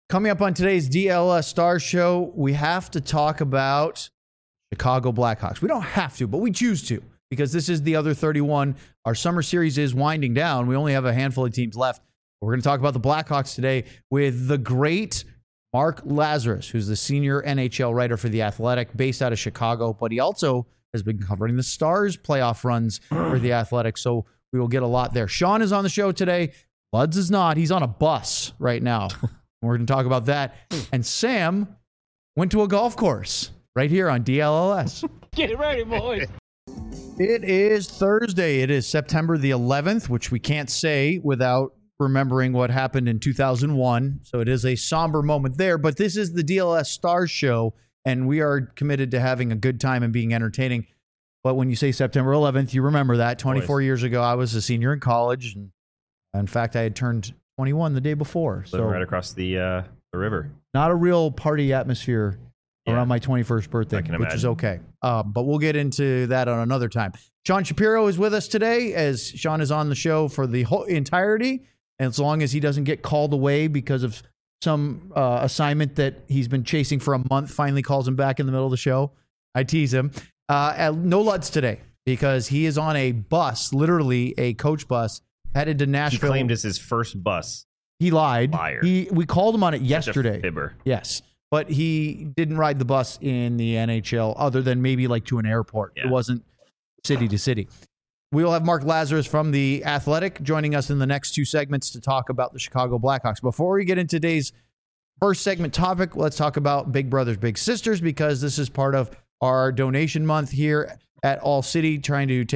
Coming up on today's DLS Stars Show, we have to talk about Chicago Blackhawks. We don't have to, but we choose to because this is the other 31. Our summer series is winding down. We only have a handful of teams left. We're going to talk about the Blackhawks today with the great Mark Lazarus, who's the senior NHL writer for The Athletic, based out of Chicago, but he also has been covering the Stars playoff runs for The Athletic, so we will get a lot there. Sean is on the show today. Buds is not. He's on a bus right now. We're going to talk about that. And Sam went to a golf course right here on DLLS. Get ready, boys. It is Thursday. It is September the 11th, which we can't say without remembering what happened in 2001. So it is a somber moment there. But this is the DLS Stars Show, and we are committed to having a good time and being entertaining. But when you say September 11th, you remember that. 24 years ago, I was a senior in college. And in fact, I had turned 21 the day before. So right across the river. Not a real party atmosphere around my 21st birthday, which is okay. But we'll get into that on another time. Sean Shapiro is with us today, as Sean is on the show for the whole entirety. And as long as he doesn't get called away because of some assignment that he's been chasing for a month, finally calls him back in the middle of the show. I tease him. No Lutz today because he is on a bus, literally a coach bus, headed to Nashville. He claimed it's his first bus. He lied. Liar. We called him on it yesterday. Fibber. Yes. But he didn't ride the bus in the NHL other than maybe like to an airport. Yeah. It wasn't city to city. We will have Mark Lazarus from The Athletic joining us in the next two segments to talk about the Chicago Blackhawks. Before we get into today's first segment topic, let's talk about Big Brothers Big Sisters, because this is part of our donation month here at All City, trying to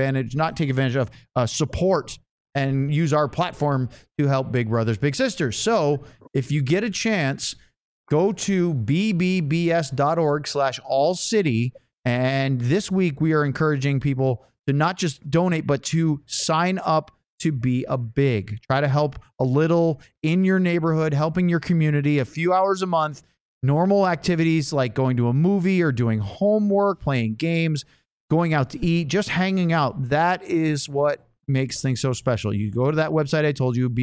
support and use our platform to help Big Brothers Big Sisters. So if you get a chance, go to bbbs.org/allcity. And this week we are encouraging people to not just donate, but to sign up to be a big. Try to help a little in your neighborhood, helping your community, a few hours a month, normal activities like going to a movie or doing homework, playing games, going out to eat, just hanging out. That is what makes things so special. You go to that website I told you,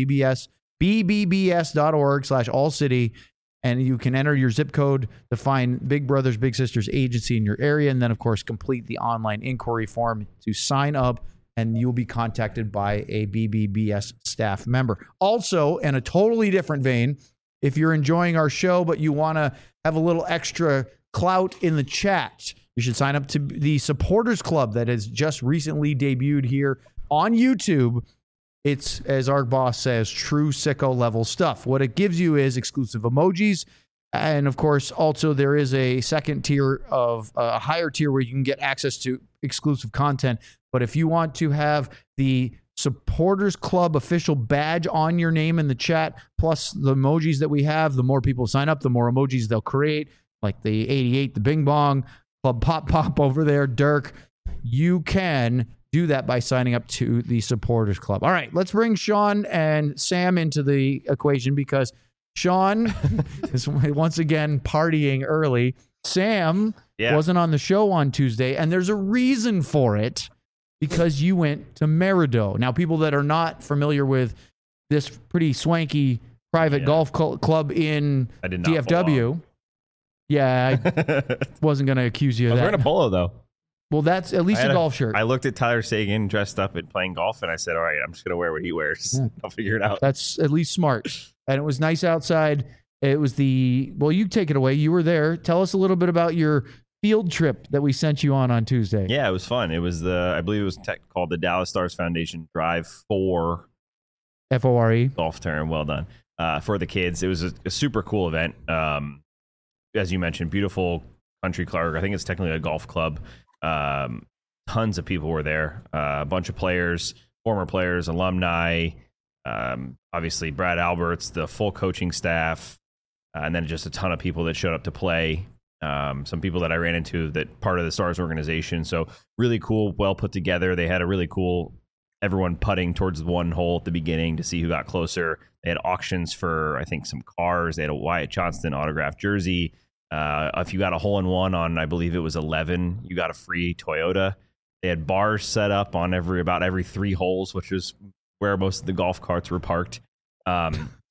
bbbs.org/allcity, and you can enter your zip code to find Big Brothers Big Sisters agency in your area, and then of course complete the online inquiry form to sign up, and you'll be contacted by a BBBS staff member. Also, in a totally different vein, if you're enjoying our show but you want to have a little extra clout in the chat, you should sign up to the Supporters Club that has just recently debuted here on YouTube. It's, as our boss says, true sicko level stuff. What it gives you is exclusive emojis. And of course, also there is a second tier of a higher tier where you can get access to exclusive content. But if you want to have the Supporters Club official badge on your name in the chat, plus the emojis that we have, the more people sign up, the more emojis they'll create, like the 88, the Bing Bong, Club Pop over there, Dirk. You can do that by signing up to the Supporters Club. All right, let's bring Sean and Sam into the equation because Sean is once again partying early. Sam wasn't on the show on Tuesday, and there's a reason for it, because you went to Merido. Now, people that are not familiar with this pretty swanky private golf club in DFW, I wasn't going to accuse you of that. I was wearing a polo, though. Well, that's at least a golf shirt. I looked at Tyler Sagan dressed up and playing golf, and I said, all right, I'm just going to wear what he wears. Yeah. I'll figure it out. That's at least smart. And it was nice outside. It was you take it away. You were there. Tell us a little bit about your field trip that we sent you on Tuesday. Yeah, it was fun. It was I believe it was called the Dallas Stars Foundation Drive 4. FORE. Golf term. Well done. For the kids. It was a super cool event. As you mentioned, beautiful country club. I think it's technically a golf club. Tons of people were there, a bunch of players, former players, alumni, obviously Brad Alberts, the full coaching staff, and then just a ton of people that showed up to play. Some people that I ran into that part of the Stars organization. So really cool, well put together. They had a really cool, everyone putting towards one hole at the beginning to see who got closer. They had auctions for, I think, some cars. They had a Wyatt Johnston autographed jersey. If you got a hole-in-one on, I believe it was 11, you got a free Toyota. They had bars set up on about every 3 holes, which is where most of the golf carts were parked.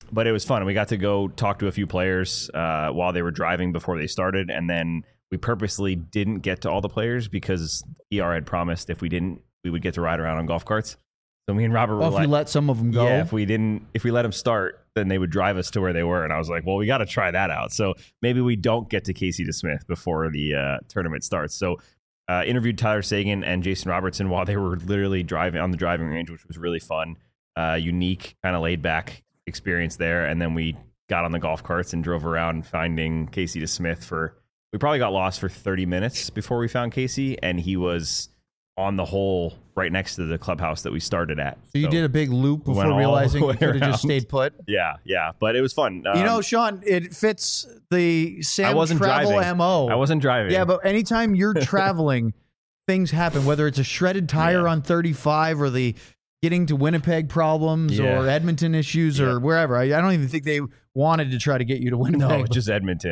But it was fun. We got to go talk to a few players while they were driving before they started. And then we purposely didn't get to all the players because PR had promised if we didn't, we would get to ride around on golf carts. So me and Robert were Well, if you let some of them go. yeah, if we let them start, then they would drive us to where they were. And I was like, well, we got to try that out. So maybe we don't get to Casey DeSmith before the tournament starts. So interviewed Tyler Sagan and Jason Robertson while they were literally driving on the driving range, which was really fun. Unique, kind of laid back experience there. And then we got on the golf carts and drove around finding Casey DeSmith we probably got lost for 30 minutes before we found Casey. And he was on the hole right next to the clubhouse that we started at. So you did a big loop we before realizing you could have around. just stayed put? Yeah. But it was fun. You know, Sean, it fits the Sam travel driving. MO. I wasn't driving. Yeah, but anytime you're traveling, things happen, whether it's a shredded tire on 35 or the getting to Winnipeg problems or Edmonton issues or wherever. I don't even think they wanted to try to get you to Winnipeg. No, just Edmonton.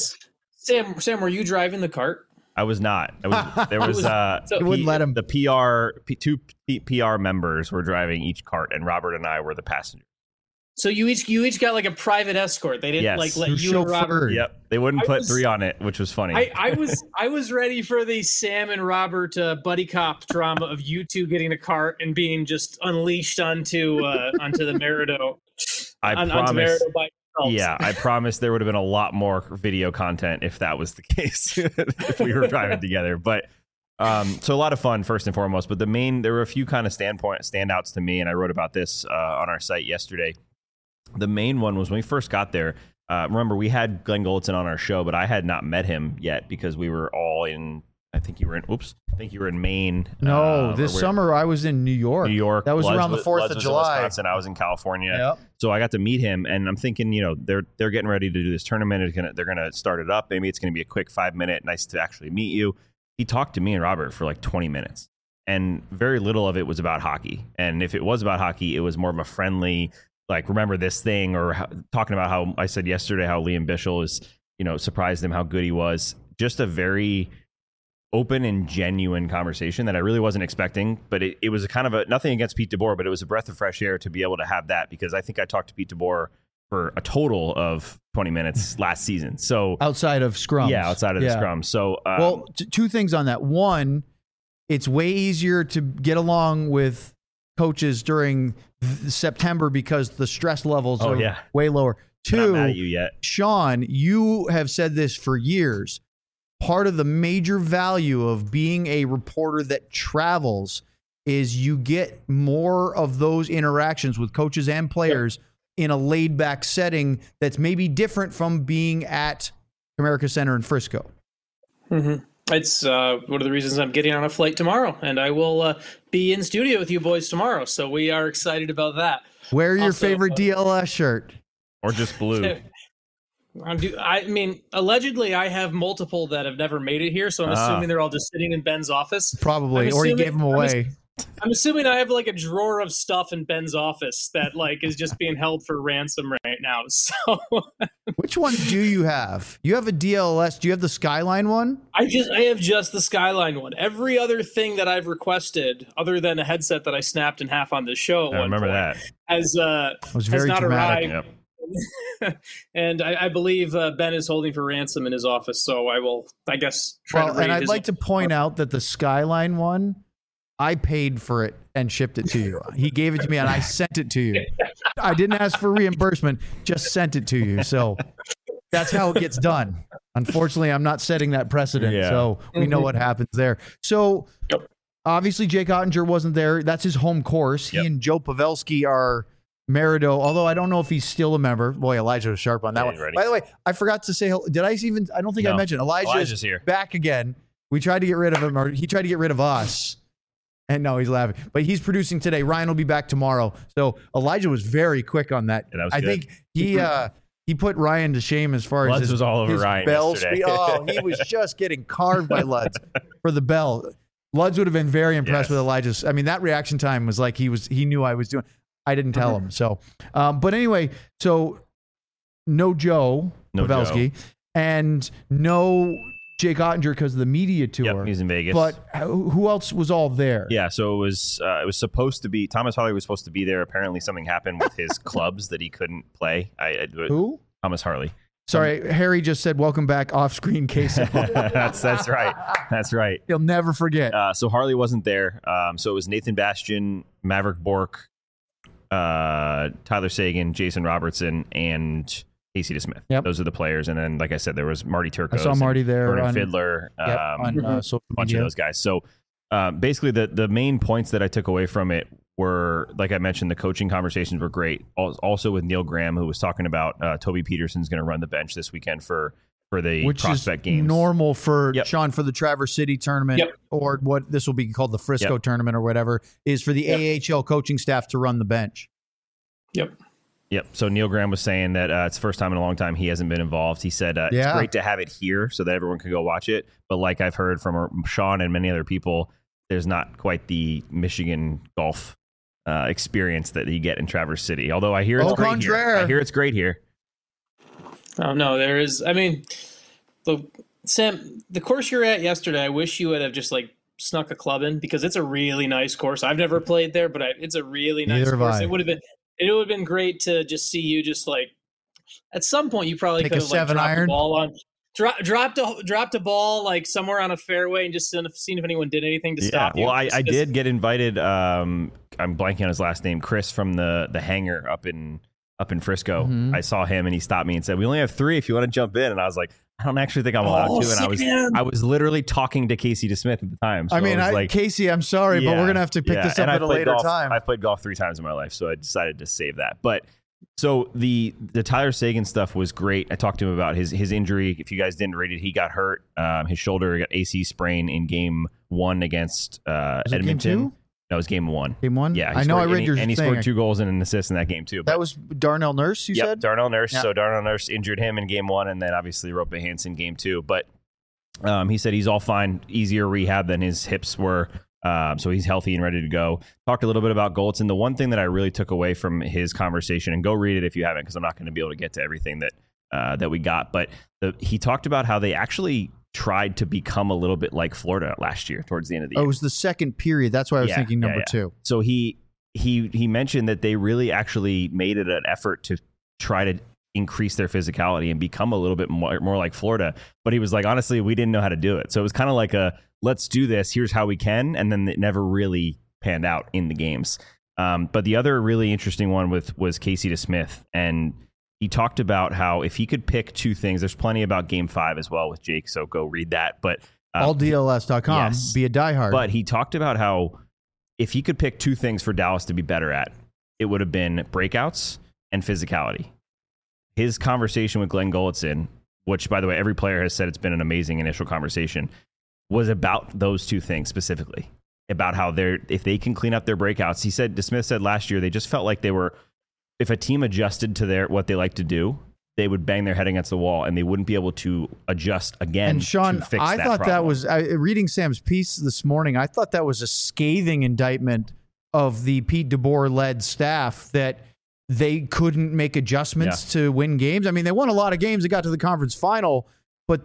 Sam, were you driving the cart? I was not. There was you wouldn't let him. The two PR members were driving each cart, and Robert and I were the passengers. So you each got like a private escort. They didn't let you and Robert. Yep, they wouldn't put three on it, which was funny. I was ready for the Sam and Robert buddy cop drama of you two getting a cart and being just unleashed onto the Merido. Onto Merido by yourselves. Yeah, I promise there would have been a lot more video content if that was the case, if we were driving together. But so a lot of fun first and foremost. But there were a few kind of standouts to me, and I wrote about this on our site yesterday. The main one was when we first got there. Remember, we had Glenn Golitzin on our show, but I had not met him yet because we were all in. I think you were in Maine. No, this summer I was in New York. That was around the 4th of July. Wisconsin. I was in California. Yep. So I got to meet him, and I'm thinking, they're getting ready to do this tournament. They're gonna start it up. Maybe it's gonna be a quick 5-minute. Nice to actually meet you. He talked to me and Robert for like 20 minutes, and very little of it was about hockey. And if it was about hockey, it was more of a friendly, like, remember this thing, or talking about how I said yesterday how Liam Bichel is, surprised him how good he was. Just a very open and genuine conversation that I really wasn't expecting, but it was a kind of nothing against Pete DeBoer, but it was a breath of fresh air to be able to have that, because I think I talked to Pete DeBoer for a total of 20 minutes last season. So outside of scrums. Yeah, outside of the scrum. So two things on that. One, it's way easier to get along with coaches during September because the stress levels are way lower. Two, I'm not mad at you yet. Sean, you have said this for years. Part of the major value of being a reporter that travels is you get more of those interactions with coaches and players in a laid back setting that's maybe different from being at Comerica Center in Frisco. Mm-hmm. It's one of the reasons I'm getting on a flight tomorrow, and I will be in studio with you boys tomorrow. So we are excited about that. Wear your favorite DLS shirt. Or just blue. I mean, allegedly, I have multiple that have never made it here, so I'm assuming they're all just sitting in Ben's office. Probably, or he gave them away. I'm assuming I have like a drawer of stuff in Ben's office that like is just being held for ransom right now. So, which one do you have? You have a DLS. Do you have the Skyline one? I have just the Skyline one. Every other thing that I've requested, other than a headset that I snapped in half on this show, I remember that has not dramatic. arrived. Yep. And I believe Ben is holding for ransom in his office, so I will, I guess, try to raid and I'd like to point out that the Skyline one, I paid for it and shipped it to you. He gave it to me and I sent it to you. I didn't ask for reimbursement, just sent it to you. So that's how it gets done. Unfortunately, I'm not setting that precedent, so we know what happens there. So obviously Jake Ottinger wasn't there. That's his home course. He and Joe Pavelski are Merido, although I don't know if he's still a member. Boy, Elijah was sharp on that one. Ready. By the way, I forgot to say, I don't think I mentioned Elijah's here. Back again. We tried to get rid of him, or he tried to get rid of us. And no, he's laughing. But he's producing today. Ryan will be back tomorrow. So Elijah was very quick on that. Yeah, that was I good. think he put Ryan to shame as far Luds as was all over Ryan bell yesterday. speed. Oh, he was just getting carved by Luds for the bell. Luds would have been very impressed with Elijah's. I mean, that reaction time was like he knew I was doing. I didn't tell him. So, but anyway, so no Joe Pavelski and no Jake Ottinger because of the media tour. Yep, he's in Vegas. But who else was all there? Yeah, so it was supposed to be Thomas Harley was supposed to be there. Apparently, something happened with his clubs that he couldn't play. Who? Thomas Harley. Sorry, Harry just said, "Welcome back, off-screen Casey." That's right. That's right. He'll never forget. So Harley wasn't there. So it was Nathan Bastian, Maverick Bork, Tyler Sagan, Jason Robertson, and Casey DeSmith. Yep. Those are the players. And then, like I said, there was Marty Turcos. I saw Marty there. Vernon Fiddler. On social a bunch media. of those guys. So basically, the main points that I took away from it were, like I mentioned, the coaching conversations were great. Also with Neil Graham, who was talking about Toby Peterson's going to run the bench this weekend for the Which prospect is games. normal for Sean for the Traverse City tournament, or what this will be called the Frisco tournament or whatever, is for the AHL coaching staff to run the bench. Yep. So Neil Graham was saying that it's the first time in a long time he hasn't been involved. He said it's great to have it here so that everyone can go watch it. But like I've heard from Sean and many other people, there's not quite the Michigan golf experience that you get in Traverse City. Although I hear it's great here. I hear it's great here. Oh no, there is. I mean, Sam, the course you're at yesterday, I wish you would have just like snuck a club in because it's a really nice course. I've never played there, but it's a really nice course. It would have been great to just see you just like at some point you probably could have like dropped the ball on. Dropped a ball like somewhere on a fairway and just seen if anyone did anything to stop you. Well, I did get invited. I'm blanking on his last name, Chris from the hangar up in Frisco. Mm-hmm. I saw him and he stopped me and said, "We only have 3 if you want to jump in." And I was like, "I don't actually think I'm allowed to." And I was literally talking to Casey DeSmith at the time. So Casey, I'm sorry, but we're gonna have to pick this up at a later time. I've played golf 3 times in my life, so I decided to save that. But so the Tyler Sagan stuff was great. I talked to him about his injury. If you guys didn't read it, he got hurt. His shoulder got AC sprain in game 1 against Edmonton. Game 2? No, it was game 1. Game 1? Yeah, I know. I read your and he scored 2 goals and an assist in that game too. That was Darnell Nurse. You said Darnell Nurse. Yeah. So Darnell Nurse injured him in game 1, and then obviously Rope Hansen game 2. But he said he's all fine. Easier rehab than his hips were. So he's healthy and ready to go. Talked a little bit about Goltz. And the one thing that I really took away from his conversation, and go read it if you haven't, because I'm not going to be able to get to everything that we got. But he talked about how they actually tried to become a little bit like Florida last year towards the end of the year. It was the second period. That's why I was thinking number 2. So he mentioned that they really actually made it an effort to try to increase their physicality and become a little bit more like Florida. But he was like, honestly, we didn't know how to do it. So it was kind of like let's do this. Here's how we can. And then it never really panned out in the games. But the other really interesting one was Casey DeSmith. And he talked about how if he could pick 2 things, there's plenty about game 5 as well with Jake. So go read that. But alldls.com, be a diehard. But he talked about how if he could pick 2 things for Dallas to be better at, it would have been breakouts and physicality. His conversation with Glenn Gulletson, which, by the way, every player has said it's been an amazing initial conversation, was about those 2 things specifically, about how if they can clean up their breakouts. He said, DeSmith said last year, they just felt like they were, if a team adjusted to what they like to do, they would bang their head against the wall and they wouldn't be able to adjust again. And Sean, to fix I that thought problem. that was, reading Sam's piece this morning, I thought that was a scathing indictment of the Pete DeBoer-led staff that they couldn't make adjustments to win games. I mean, they won a lot of games. They got to the conference final, but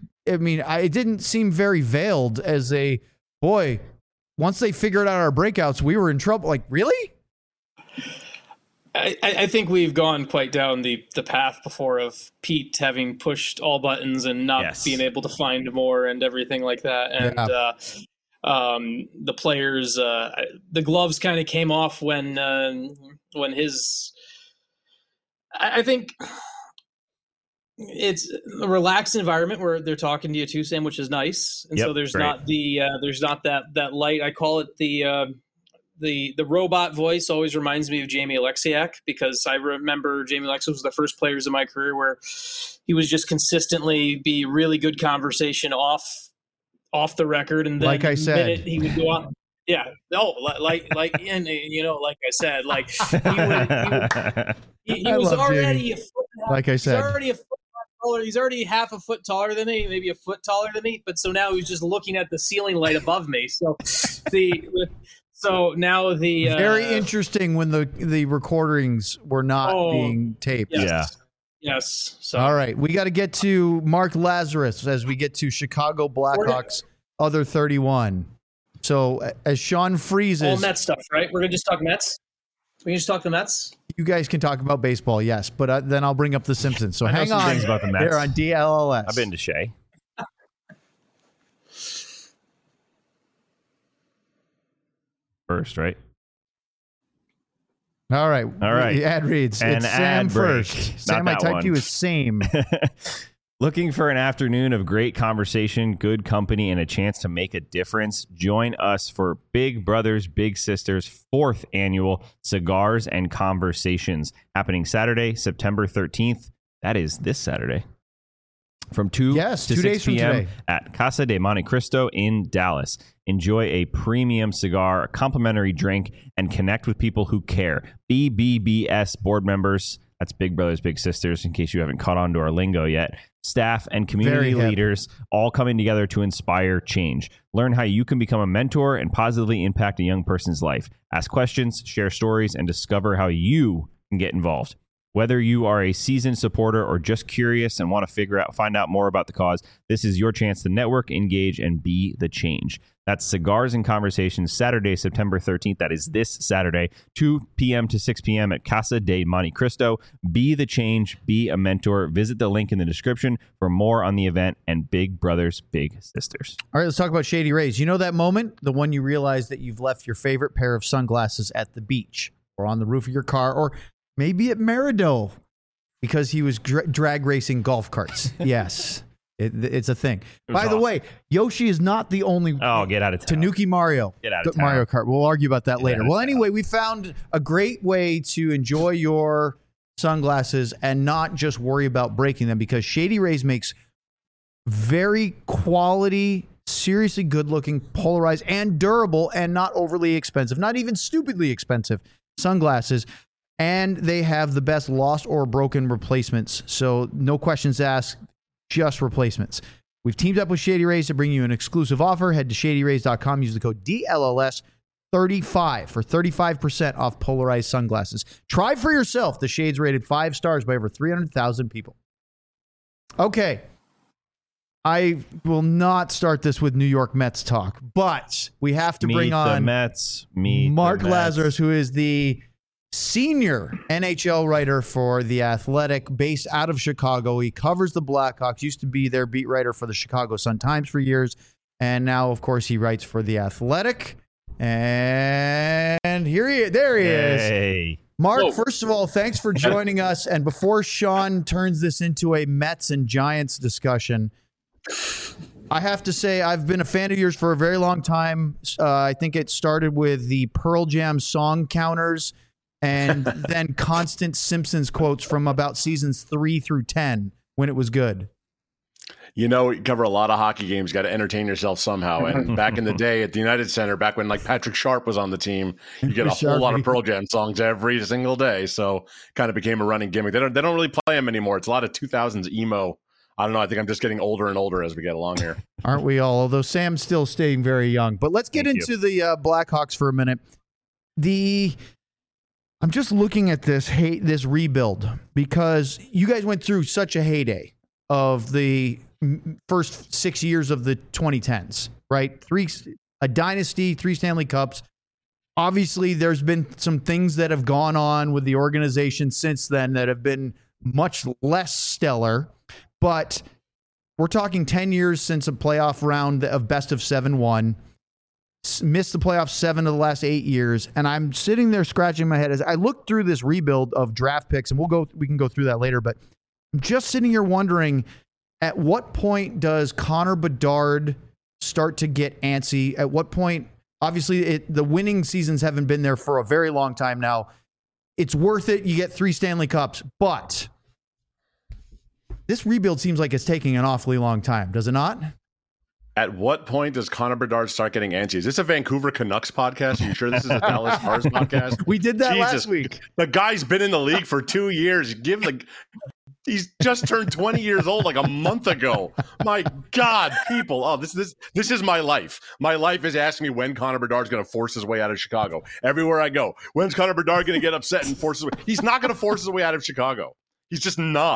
it didn't seem very veiled as once they figured out our breakouts, we were in trouble. Like, really? I think we've gone quite down the path before of Pete having pushed all buttons and not being able to find more and everything like that. And the players, the gloves kind of came off when his, I think it's a relaxed environment where they're talking to you too, Sam, which is nice. And so there's not that light. I call it the robot voice always reminds me of Jamie Alexiak, because I remember Jamie Alexiak was the first players in my career where he was just consistently be really good conversation off the record. And then like I said, he would go on. Yeah. No, like I said, like he was already a foot. Like I said, he's already a foot taller. He's already half a foot taller than me, maybe a foot taller than me. But so now he's just looking at the ceiling light above me. So now the very interesting when the recordings were not being taped. Yes. Yes. So. All right. We got to get to Mark Lazarus as we get to Chicago Blackhawks, other 31. So as Sean freezes. All Mets stuff, right? We're going to just talk Mets? We can just talk the Mets? You guys can talk about baseball, yes. But then I'll bring up the Simpsons. So hang on. Things about the Mets. They're on DLLS. I've been to Shea. First, right? All right. The ad reads. And it's Sam first. Sam, I typed you as same. Looking for an afternoon of great conversation, good company, and a chance to make a difference? Join us for Big Brothers Big Sisters 4th annual Cigars and Conversations, happening Saturday, September 13th. That is this Saturday. From 2 to 6 p.m. at Casa de Monte Cristo in Dallas. Enjoy a premium cigar, a complimentary drink, and connect with people who care. BBBS board members, that's Big Brothers Big Sisters, in case you haven't caught on to our lingo yet, staff and community leaders all coming together to inspire change. Learn how you can become a mentor and positively impact a young person's life. Ask questions, share stories, and discover how you can get involved. Whether you are a seasoned supporter or just curious and want to find out more about the cause, this is your chance to network, engage, and be the change. That's Cigars and Conversations, Saturday, September 13th. That is this Saturday, 2 p.m. to 6 p.m. at Casa de Monte Cristo. Be the change, be a mentor. Visit the link in the description for more on the event and Big Brothers Big Sisters. All right, let's talk about Shady Rays. You know that moment, the one you realize that you've left your favorite pair of sunglasses at the beach or on the roof of your car, or maybe at Merido because he was drag racing golf carts. Yes, it's a thing. By the way, Yoshi is not the only. Oh, get out of town. Tanuki Mario. Get out of town. Mario Kart. We'll argue about that later. Well, anyway, we found a great way to enjoy your sunglasses and not just worry about breaking them, because Shady Rays makes very quality, seriously good-looking, polarized, and durable, and not overly expensive, not even stupidly expensive sunglasses. And they have the best lost or broken replacements. So no questions asked, just replacements. We've teamed up with Shady Rays to bring you an exclusive offer. Head to shadyrays.com. Use the code DLLS35 for 35% off polarized sunglasses. Try for yourself the shades rated 5 stars by over 300,000 people. Okay. I will not start this with New York Mets talk, but we have to bring on Mark Lazarus, who is the senior NHL writer for The Athletic, based out of Chicago. He covers the Blackhawks, used to be their beat writer for the Chicago Sun-Times for years, and now, of course, he writes for The Athletic. And there he is. Mark, first of all, thanks for joining us. And before Sean turns this into a Mets and Giants discussion, I have to say I've been a fan of yours for a very long time. I think it started with the Pearl Jam song counters, and then constant Simpsons quotes from about seasons 3 through 10 when it was good. You know, you cover a lot of hockey games. Got to entertain yourself somehow. And back in the day at the United Center, back when like Patrick Sharp was on the team, you get a whole lot of Pearl Jam songs every single day. So kind of became a running gimmick. They don't really play them anymore. It's a lot of 2000s emo. I don't know. I think I'm just getting older and older as we get along here. Aren't we all? Although Sam's still staying very young. But let's get into the Blackhawks for a minute. I'm just looking at this rebuild, because you guys went through such a heyday of the first 6 years of the 2010s, right? A dynasty, 3 Stanley Cups. Obviously, there's been some things that have gone on with the organization since then that have been much less stellar, but we're talking 10 years since a playoff round of best of 7 won. Missed the playoffs 7 of the last 8 years, and I'm sitting there scratching my head as I look through this rebuild of draft picks, and we can go through that later, but I'm just sitting here wondering, at what point does Connor Bedard start to get antsy? At what point, obviously the winning seasons haven't been there for a very long time now. It's worth it. You get 3 Stanley Cups, but this rebuild seems like it's taking an awfully long time, does it not? At what point does Connor Bedard start getting antsy? Is this a Vancouver Canucks podcast? Are you sure this is a Dallas Stars podcast? We did that last week. The guy's been in the league for 2 years. He's just turned 20 years old like a month ago. My God, people. Oh, this is my life. My life is asking me when Connor Bedard's going to force his way out of Chicago. Everywhere I go, when's Connor Bedard going to get upset and force his way? He's not going to force his way out of Chicago. He's just not.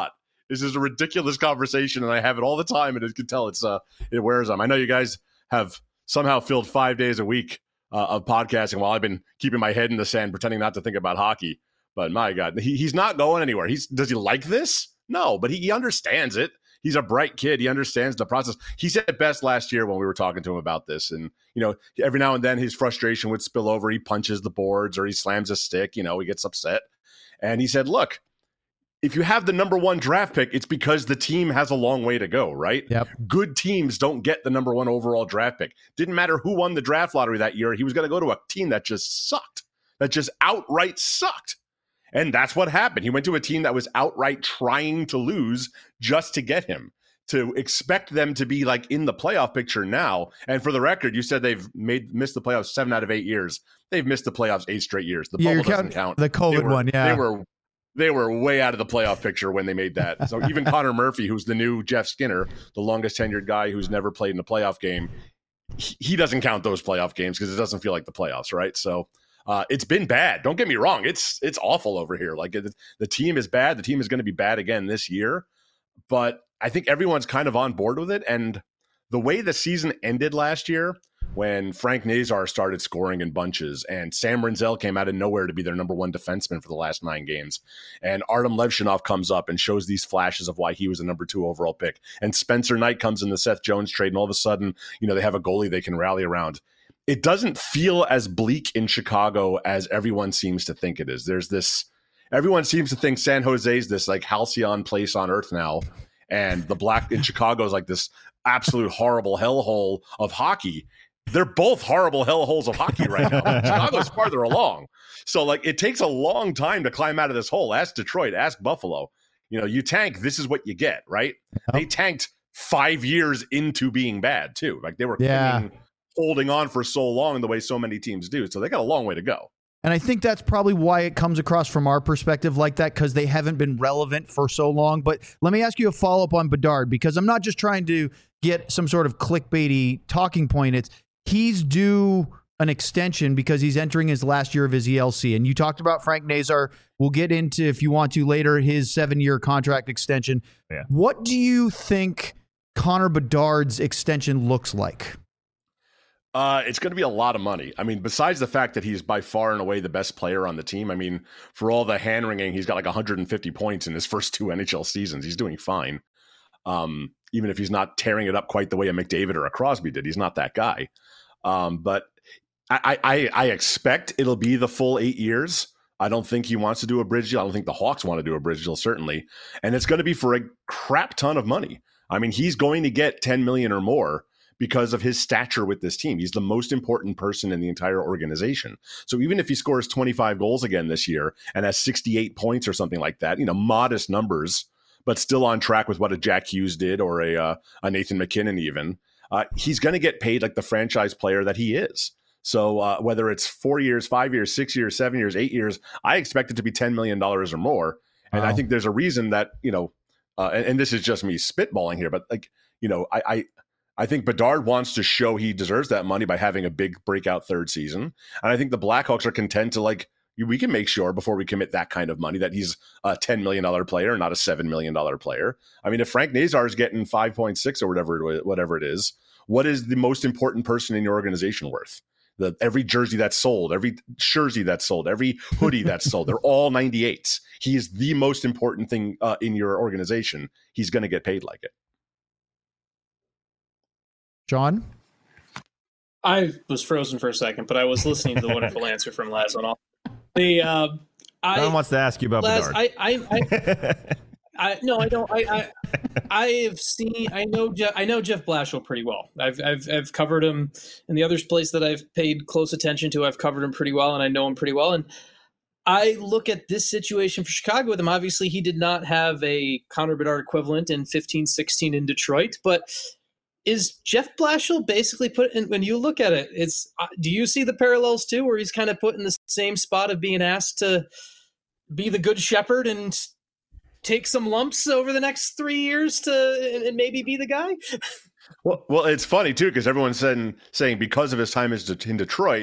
This is a ridiculous conversation, and I have it all the time, and you can tell it wears on. I know you guys have somehow filled 5 days a week of podcasting while I've been keeping my head in the sand, pretending not to think about hockey. But my God, he's not going anywhere. Does he like this? No, but he understands it. He's a bright kid. He understands the process. He said it best last year when we were talking to him about this. And, every now and then his frustration would spill over. He punches the boards or he slams a stick. He gets upset. And he said, look, if you have the number 1 draft pick, it's because the team has a long way to go, right? Yep. Good teams don't get the number 1 overall draft pick. Didn't matter who won the draft lottery that year. He was going to go to a team that just sucked, that just outright sucked. And that's what happened. He went to a team that was outright trying to lose just to get him. To expect them to be like in the playoff picture now. And for the record, you said they've missed the playoffs 7 out of 8 years. They've missed the playoffs 8 straight years. The bubble doesn't count. The COVID one, yeah. They were way out of the playoff picture when they made that. So even Connor Murphy, who's the new Jeff Skinner, the longest tenured guy who's never played in a playoff game, he doesn't count those playoff games because it doesn't feel like the playoffs, right? So it's been bad. Don't get me wrong. It's awful over here. Like the team is bad. The team is going to be bad again this year. But I think everyone's kind of on board with it. And the way the season ended last year, when Frank Nazar started scoring in bunches and Sam Rinzel came out of nowhere to be their number 1 defenseman for the last 9 games, and Artem Levshinov comes up and shows these flashes of why he was the number 2 overall pick, and Spencer Knight comes in the Seth Jones trade, and all of a sudden, they have a goalie they can rally around. It doesn't feel as bleak in Chicago as everyone seems to think it is. Everyone seems to think San Jose is this like halcyon place on earth now, and the Black in Chicago is like this absolute horrible hellhole of hockey. They're both horrible hellholes of hockey right now. Chicago's farther along. So like it takes a long time to climb out of this hole. Ask Detroit, ask Buffalo. You tank, this is what you get, right? Yep. They tanked 5 years into being bad too. Like they were holding on for so long the way so many teams do. So they got a long way to go. And I think that's probably why it comes across from our perspective like that, because they haven't been relevant for so long. But let me ask you a follow-up on Bedard, because I'm not just trying to get some sort of clickbaity talking point. He's due an extension because he's entering his last year of his ELC. And you talked about Frank Nazar. We'll get into, if you want to later, his 7-year contract extension. Yeah. What do you think Connor Bedard's extension looks like? It's going to be a lot of money. I mean, besides the fact that he's by far and away the best player on the team. I mean, for all the hand-wringing, he's got like 150 points in his first 2 NHL seasons. He's doing fine. Even if he's not tearing it up quite the way a McDavid or a Crosby did. He's not that guy. But I expect it'll be the full 8 years. I don't think he wants to do a bridge deal. I don't think the Hawks want to do a bridge deal, certainly. And it's going to be for a crap ton of money. I mean, he's going to get $10 million or more because of his stature with this team. He's the most important person in the entire organization. So even if he scores 25 goals again this year and has 68 points or something like that, modest numbers, but still on track with what a Jack Hughes did or a Nathan McKinnon even, he's going to get paid like the franchise player that he is. So whether it's 4 years, 5 years, 6 years, 7 years, 8 years, I expect it to be $10 million or more. And I think there's a reason that, and this is just me spitballing here, but I think Bedard wants to show he deserves that money by having a big breakout third season. And I think the Blackhawks are content to we can make sure before we commit that kind of money that he's a $10 million player, not a $7 million player. I mean, if Frank Nazar is getting 5.6 or whatever it is, what is the most important person in your organization worth? Every jersey that's sold, every jersey that's sold, every hoodie that's sold, they're all 98s. He is the most important thing in your organization. He's going to get paid like it. John? I was frozen for a second, but I was listening to the wonderful answer from Lazonov. John wants to ask you about Bedard. I don't. I know Jeff Blashill pretty well. I've covered him in the other place that I've paid close attention to. I've covered him pretty well, and I know him pretty well. And I look at this situation for Chicago with him. Obviously, he did not have a Connor Bedard equivalent in 15-16 in Detroit, but is Jeff Blashill basically put in, when you look at it, do you see the parallels too, where he's kind of put in the same spot of being asked to be the good shepherd and take some lumps over the next 3 years and maybe be the guy? Well, it's funny too, because everyone's saying because of his time in Detroit,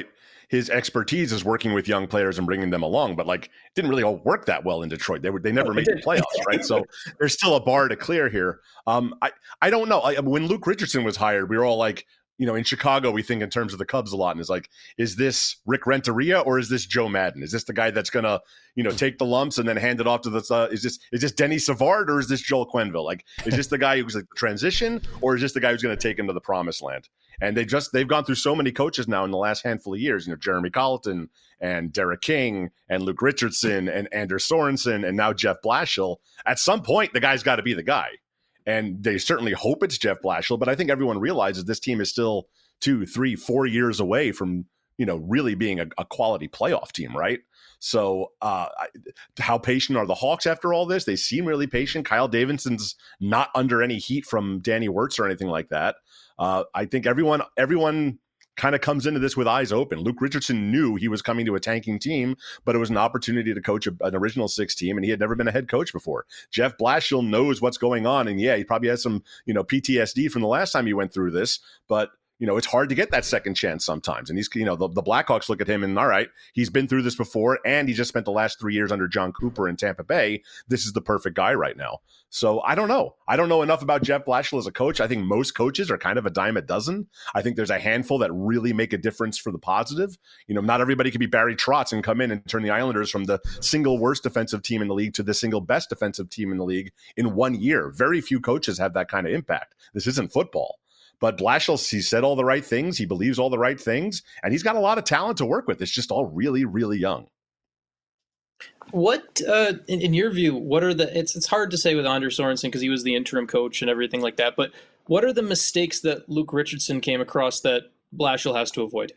his expertise is working with young players and bringing them along, but like it didn't really all work that well in Detroit. They never made the playoffs, right? So there's still a bar to clear here. I don't know. When Luke Richardson was hired, we were all like, in Chicago, we think in terms of the Cubs a lot, and it's like, is this Rick Renteria or is this Joe Madden? Is this the guy that's gonna, take the lumps and then hand it off to the? Is this Denny Savard or is this Joel Quenneville? Like, is this the guy who's like the transition, or is this the guy who's going to take him to the promised land? And they've gone through so many coaches now in the last handful of years. Jeremy Colleton and Derek King and Luke Richardson and Anders Sorensen and now Jeff Blashill. At some point, the guy's got to be the guy. And they certainly hope it's Jeff Blashill, but I think everyone realizes this team is still 2, 3, 4 years away from, really being a quality playoff team, right? So how patient are the Hawks after all this? They seem really patient. Kyle Davidson's not under any heat from Danny Wirtz or anything like that. I think everyone kind of comes into this with eyes open. Luke Richardson knew he was coming to a tanking team, but it was an opportunity to coach an original 6 team, and he had never been a head coach before. Jeff Blashill knows what's going on, and yeah, he probably has some, PTSD from the last time he went through this, but it's hard to get that second chance sometimes. And he's, the Blackhawks look at him and, all right, he's been through this before, and he just spent the last 3 years under John Cooper in Tampa Bay. This is the perfect guy right now. So I don't know. I don't know enough about Jeff Blashill as a coach. I think most coaches are kind of a dime a dozen. I think there's a handful that really make a difference for the positive. Not everybody can be Barry Trotz and come in and turn the Islanders from the single worst defensive team in the league to the single best defensive team in the league in 1 year. Very few coaches have that kind of impact. This isn't football. But Blashill, he said all the right things. He believes all the right things. And he's got a lot of talent to work with. It's just all really, really young. What, in your view, what are it's hard to say with Anders Sorensen because he was the interim coach and everything like that, but what are the mistakes that Luke Richardson came across that Blashill has to avoid?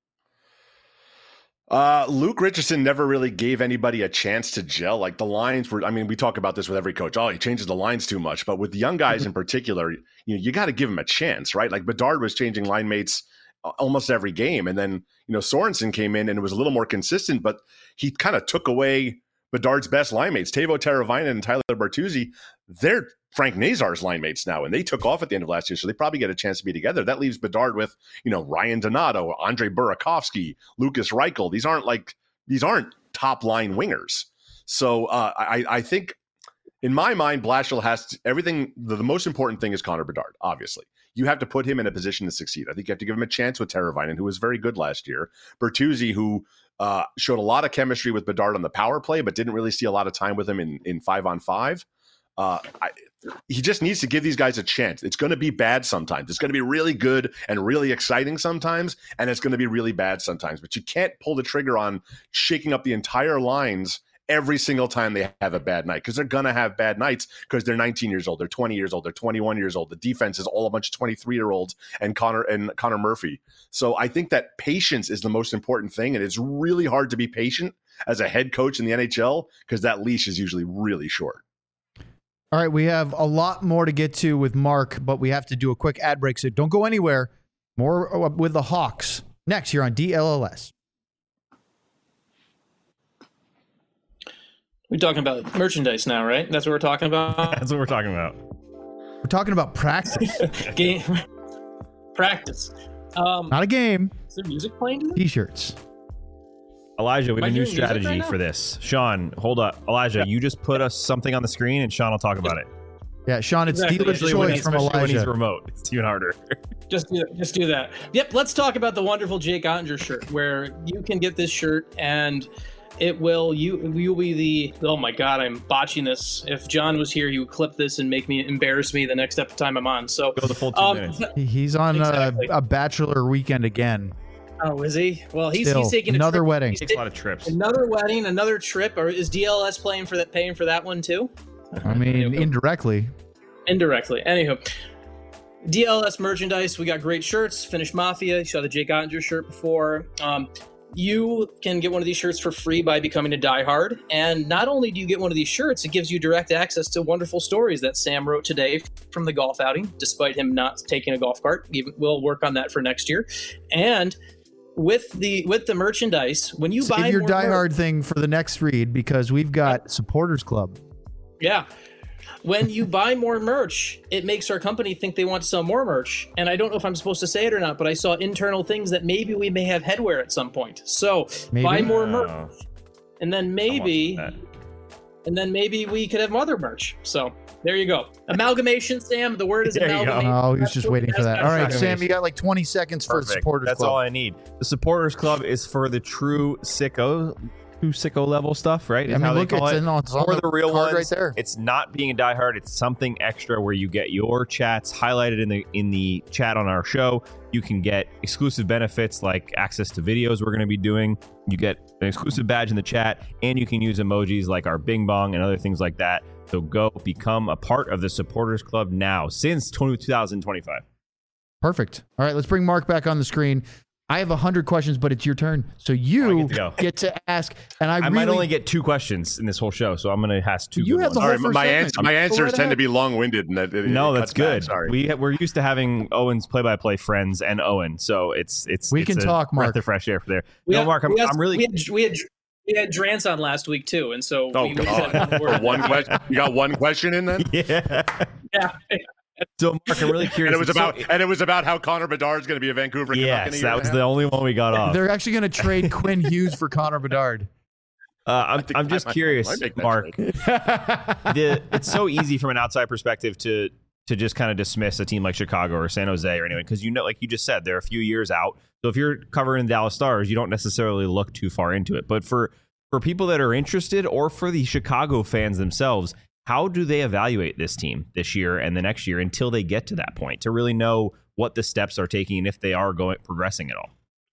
Luke Richardson never really gave anybody a chance to gel. Like the lines were, we talk about this with every coach. Oh, he changes the lines too much. But with young guys in particular, you got to give them a chance, right? Like Bedard was changing line mates almost every game. And then, Sorensen came in and it was a little more consistent, but he kind of took away Bedard's best line mates. Teuvo Teravainen and Tyler Bertuzzi, they're Frank Nazar's line mates now, and they took off at the end of last year, so they probably get a chance to be together. That leaves Bedard with, Ryan Donato, Andre Burakovsky, Lucas Reichel. These aren't top line wingers. So I think, in my mind, Blashill has everything. The most important thing is Connor Bedard, obviously. You have to put him in a position to succeed. I think you have to give him a chance with Teravainen, who was very good last year. Bertuzzi, who showed a lot of chemistry with Bedard on the power play, but didn't really see a lot of time with him in 5-on-5. He just needs to give these guys a chance. It's going to be bad sometimes. It's going to be really good and really exciting sometimes, and it's going to be really bad sometimes. But you can't pull the trigger on shaking up the entire lines every single time they have a bad night, because they're going to have bad nights because they're 19 years old, they're 20 years old, they're 21 years old. The defense is all a bunch of 23-year-olds and Connor Murphy. So I think that patience is the most important thing, and it's really hard to be patient as a head coach in the NHL because that leash is usually really short. All right, we have a lot more to get to with Mark, but we have to do a quick ad break, so don't go anywhere. More with the Hawks next here on DLLS. We're talking about merchandise now, right? That's what we're talking about? That's what we're talking about. We're talking about practice. Game. Practice. Not a game. Is there music playing today? T-shirts. Elijah, we have a new strategy for this. Sean, hold up. Elijah, you just put us something on the screen and Sean will talk about it. Yeah, Sean, it's dealer's choice from Elijah. When he's remote, it's even harder. Just do that. Yep, let's talk about the wonderful Jake Ottinger shirt, where you can get this shirt and it will you'll be the, oh my god, I'm botching this. If John was here, he would clip this and embarrass me the next time I'm on. So go the full 2 minutes. He's on a bachelor weekend again. Oh, is he? Well, he's taking another wedding. He takes a lot of trips. Another wedding, another trip. Or is DLS paying for that one too? I mean, indirectly. Anywho, DLS merchandise. We got great shirts. Finnish Mafia. You saw the Jake Ottinger shirt before. You can get one of these shirts for free by becoming a diehard. And not only do you get one of these shirts, it gives you direct access to wonderful stories that Sam wrote today from the golf outing, despite him not taking a golf cart. We'll work on that for next year. And with the merchandise, when you buy your diehard thing for the next read, because we've got Supporters Club. Yeah. when you buy more merch, it makes our company think they want to sell more merch. And I don't know if I'm supposed to say it or not, but I saw internal things that maybe we may have headwear at some point. So buy more merch, and then maybe we could have other merch. So there you go. Amalgamation, Sam. The word is amalgamation. Oh, he was just waiting for that. All right, Sam, you got like 20 seconds for the Supporters Club. That's all I need. The Supporters Club is for the true sicko level stuff, right? I mean, look, it's for the real ones right there. It's not being a diehard. It's something extra where you get your chats highlighted in the chat on our show. You can get exclusive benefits like access to videos we're going to be doing. You get an exclusive badge in the chat, and you can use emojis like our Bing Bong and other things like that. So go become a part of the Supporters Club now since 2025. Perfect. All right, let's bring Mark back on the screen. I have 100 questions, but it's your turn. So you get to ask. And I might only get 2 questions in this whole show, so I'm going to ask 2. You have the whole first my answers tend to be long-winded. And that's good. Sorry. We're used to having Owen's play-by-play friends and Owen, so it's we can talk, Mark. Breath of fresh air for there. Mark, I'm really. We had Drance on last week too, and so one question. You got one question in then? Yeah. So, Mark, I'm really curious. And it was about how Connor Bedard is going to be a Vancouver Canuck. Yes, that was the only one we got off. They're actually going to trade Quinn Hughes for Connor Bedard. I'm just curious, Mark. It's so easy from an outside perspective to just kind of dismiss a team like Chicago or San Jose or anyone, because like you just said, they're a few years out. So if you're covering the Dallas Stars, you don't necessarily look too far into it. But for people that are interested, or for the Chicago fans themselves, how do they evaluate this team this year and the next year until they get to that point to really know what the steps are taking and if they are progressing at all?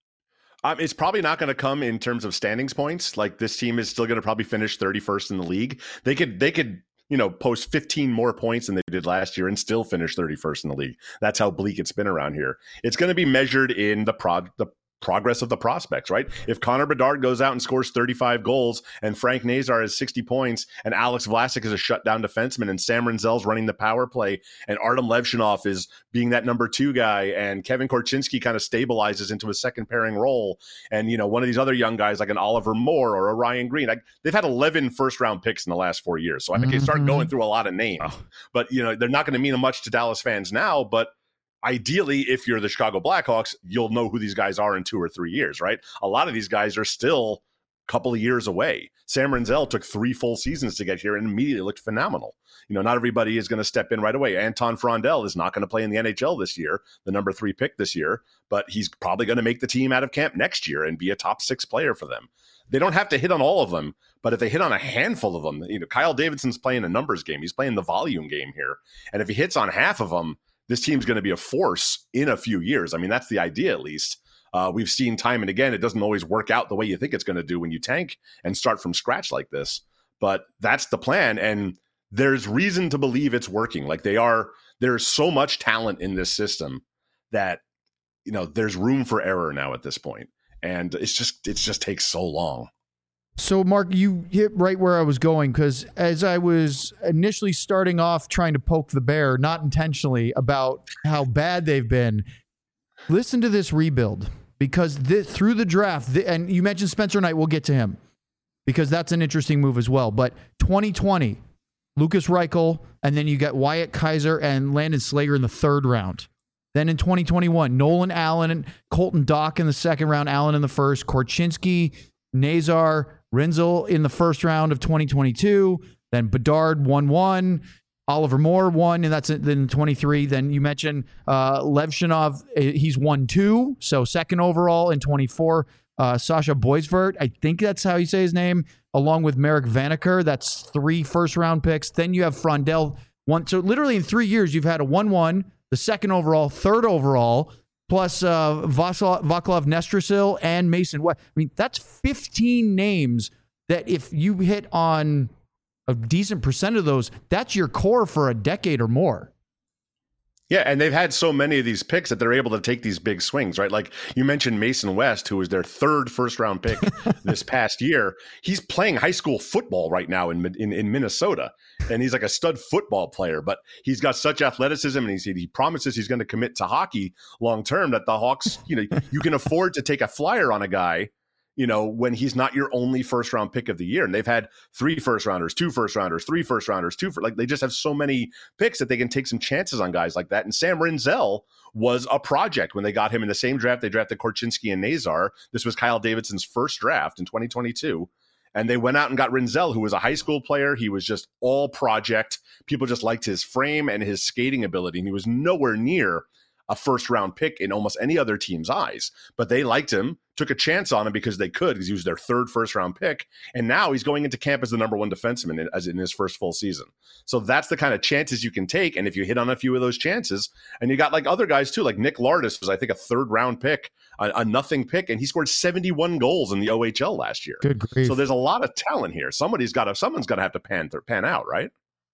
It's probably not going to come in terms of standings points. Like, this team is still going to probably finish 31st in the league. They could post 15 more points than they did last year and still finish 31st in the league. That's how bleak it's been around here. It's going to be measured in the progress of the prospects, right? If Connor Bedard goes out and scores 35 goals and Frank Nazar has 60 points and Alex Vlasic is a shutdown defenseman and Sam Rinzel's running the power play and Artem Levshinov is being that number 2 guy and Kevin Korchinski kind of stabilizes into a second pairing role, and one of these other young guys like an Oliver Moore or a Ryan Green, they've had 11 first round picks in the last 4 years. So I think they start going through a lot of names, but they're not going to mean much to Dallas fans now. But ideally, if you're the Chicago Blackhawks, you'll know who these guys are in 2 or 3 years, right? A lot of these guys are still a couple of years away. Sam Rinzel took 3 full seasons to get here and immediately looked phenomenal. Not everybody is going to step in right away. Anton Frondel is not going to play in the NHL this year, the number 3 pick this year, but he's probably going to make the team out of camp next year and be a top 6 player for them. They don't have to hit on all of them, but if they hit on a handful of them, Kyle Davidson's playing a numbers game. He's playing the volume game here. And if he hits on half of them, this team's going to be a force in a few years. I mean, that's the idea, at least. We've seen time and again, it doesn't always work out the way you think it's going to do when you tank and start from scratch like this. But that's the plan, and there's reason to believe it's working. Like, there's so much talent in this system that, there's room for error now at this point. And it just takes so long. So, Mark, you hit right where I was going, because as I was initially starting off trying to poke the bear, not intentionally, about how bad they've been, listen to this rebuild, because through the draft, and you mentioned Spencer Knight, we'll get to him, because that's an interesting move as well. But 2020, Lucas Reichel, and then you got Wyatt Kaiser and Landon Slager in the 3rd round. Then in 2021, Nolan Allen and Colton Dach in the 2nd round, Allen in the 1st, Korchinski, Nazar, Rinzel in the 1st round of 2022, then Bedard 1-1, Oliver Moore 1, and that's then 23. Then you mentioned Levshinov, he's 1-2, so 2nd overall in 24. Sasha Boisvert, I think that's how you say his name, along with Marek Vanacker, that's 3 first-round picks. Then you have Frondel, 1. So literally in 3 years, you've had a 1-1, the 2nd overall, 3rd overall, plus Vaclav Nestrasil and Mason West. I mean, that's 15 names that if you hit on a decent percent of those, that's your core for a decade or more. Yeah, and they've had so many of these picks that they're able to take these big swings, right? Like you mentioned Mason West, who was their 3rd first-round pick this past year. He's playing high school football right now in Minnesota, and he's like a stud football player, but he's got such athleticism, and he promises he's going to commit to hockey long-term that the Hawks, you can afford to take a flyer on a guy, when he's not your only first round pick of the year. And they've had 3 first rounders, 2 first rounders, 3 first rounders, they just have so many picks that they can take some chances on guys like that. And Sam Rinzel was a project when they got him in the same draft. They drafted Korchinski and Nazar. This was Kyle Davidson's first draft in 2022. And they went out and got Rinzel, who was a high school player. He was just all project. People just liked his frame and his skating ability. And he was nowhere near a first round pick in almost any other team's eyes. But they liked him, took a chance on him because they could, because he was their 3rd first round pick. And now he's going into camp as the number 1 defenseman as in his first full season. So that's the kind of chances you can take. And if you hit on a few of those chances, and you got like other guys too, like Nick Lardis was, I think, a 3rd round pick, a nothing pick, and he scored 71 goals in the OHL last year. Good grief. So there's a lot of talent here. Someone's got to have to pan out, right?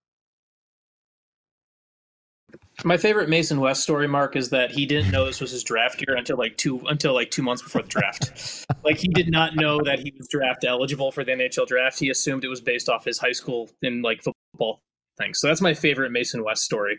My favorite Mason West story, Mark, is that he didn't know this was his draft year until like 2 months before the draft. Like, he did not know that he was draft eligible for the NHL draft. He assumed it was based off his high school and like football thing. So that's my favorite Mason West story.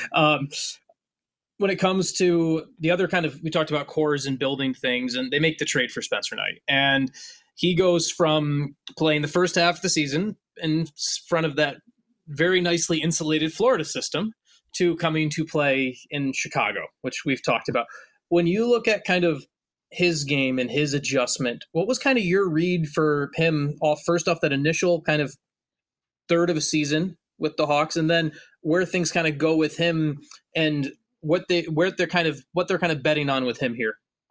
When it comes to the other kind of, we talked about cores and building things, and they make the trade for Spencer Knight. And he goes from playing the first half of the season in front of that very nicely insulated Florida system to coming to play in Chicago, which we've talked about. When you look at kind of his game and his adjustment, what was kind of your read for him first off that initial kind of third of a season with the Hawks, and then where things kind of go with him and what they're kind of betting on with him here?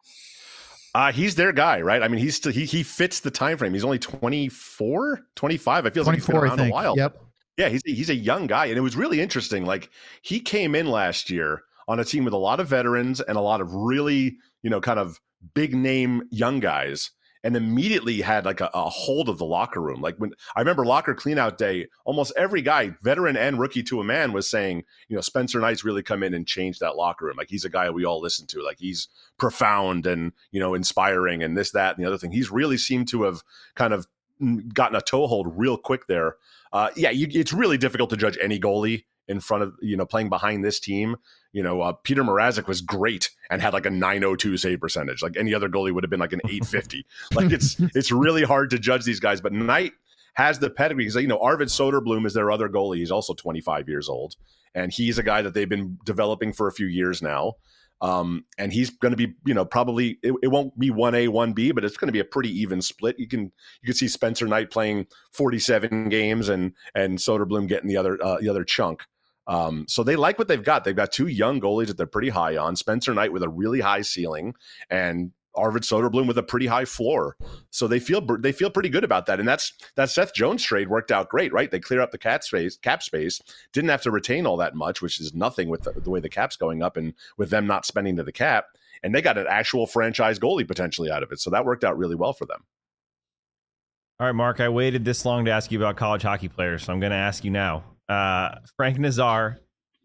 He's their guy, right? I mean, he fits the time frame. He's only 24, 25. I feel like he's been around a while. Yep. Yeah, he's a young guy, and it was really interesting. Like, he came in last year on a team with a lot of veterans and a lot of really, kind of big name young guys, and immediately had like a hold of the locker room. Like, when I remember locker cleanout day, almost every guy, veteran and rookie to a man, was saying, Spencer Knight's really come in and changed that locker room. Like, he's a guy we all listen to. Like, he's profound and, inspiring and this, that, and the other thing. He's really seemed to have kind of gotten a toehold real quick there. It's really difficult to judge any goalie in front of, playing behind this team. Peter Mrazek was great and had like a .902 save percentage. Like, any other goalie would have been like an .850. Like, it's really hard to judge these guys, but Knight has the pedigree. Because, Arvid Soderblom is their other goalie. He's also 25 years old, and he's a guy that they've been developing for a few years now. And he's going to be, probably it won't be 1A, 1B, but it's going to be a pretty even split. You can see Spencer Knight playing 47 games and Soderblom getting the other chunk. So they like what they've got. They've got 2 young goalies that they're pretty high on. Spencer Knight with a really high ceiling, and Arvid Soderblom with a pretty high floor. So they feel pretty good about that. And that Seth Jones trade worked out great, right? They clear up the cap space, didn't have to retain all that much, which is nothing with the way the cap's going up and with them not spending to the cap. And they got an actual franchise goalie potentially out of it. So that worked out really well for them. All right, Mark, I waited this long to ask you about college hockey players, so I'm going to ask you now. Frank Nazar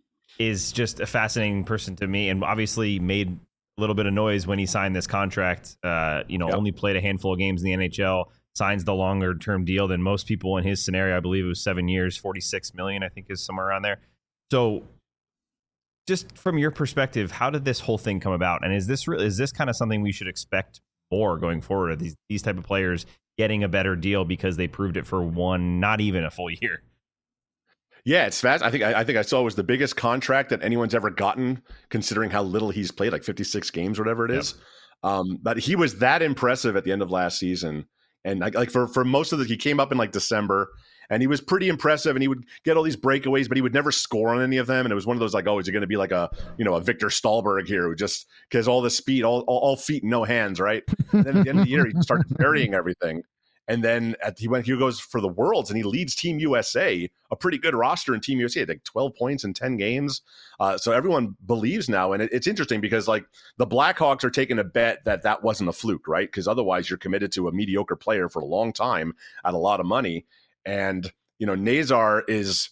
is just a fascinating person to me, and obviously made a little bit of noise when he signed this contract. Only played a handful of games in the NHL, signs the longer term deal than most people in his scenario. I believe it was 7 years, $46 million, I think is somewhere around there. So just from your perspective, how did this whole thing come about? And is this kind of something we should expect more going forward? Are these type of players getting a better deal because they proved it for not even a full year? Yeah, it's fast. I think I saw it was the biggest contract that anyone's ever gotten, considering how little he's played, like 56 games, whatever it is. But he was that impressive at the end of last season. And like for most of he came up in like December, and he was pretty impressive, and he would get all these breakaways, but he would never score on any of them. And it was one of those like, oh, is it going to be like a Victor Stahlberg here, who just because all the speed, all feet and no hands, right? And then at the end of the year, he started burying everything. And then he goes for the Worlds, and he leads Team USA, a pretty good roster in Team USA, like 12 points in 10 games. So everyone believes now. And it's interesting because like the Blackhawks are taking a bet that wasn't a fluke, right? Because otherwise you're committed to a mediocre player for a long time at a lot of money. And, Nazar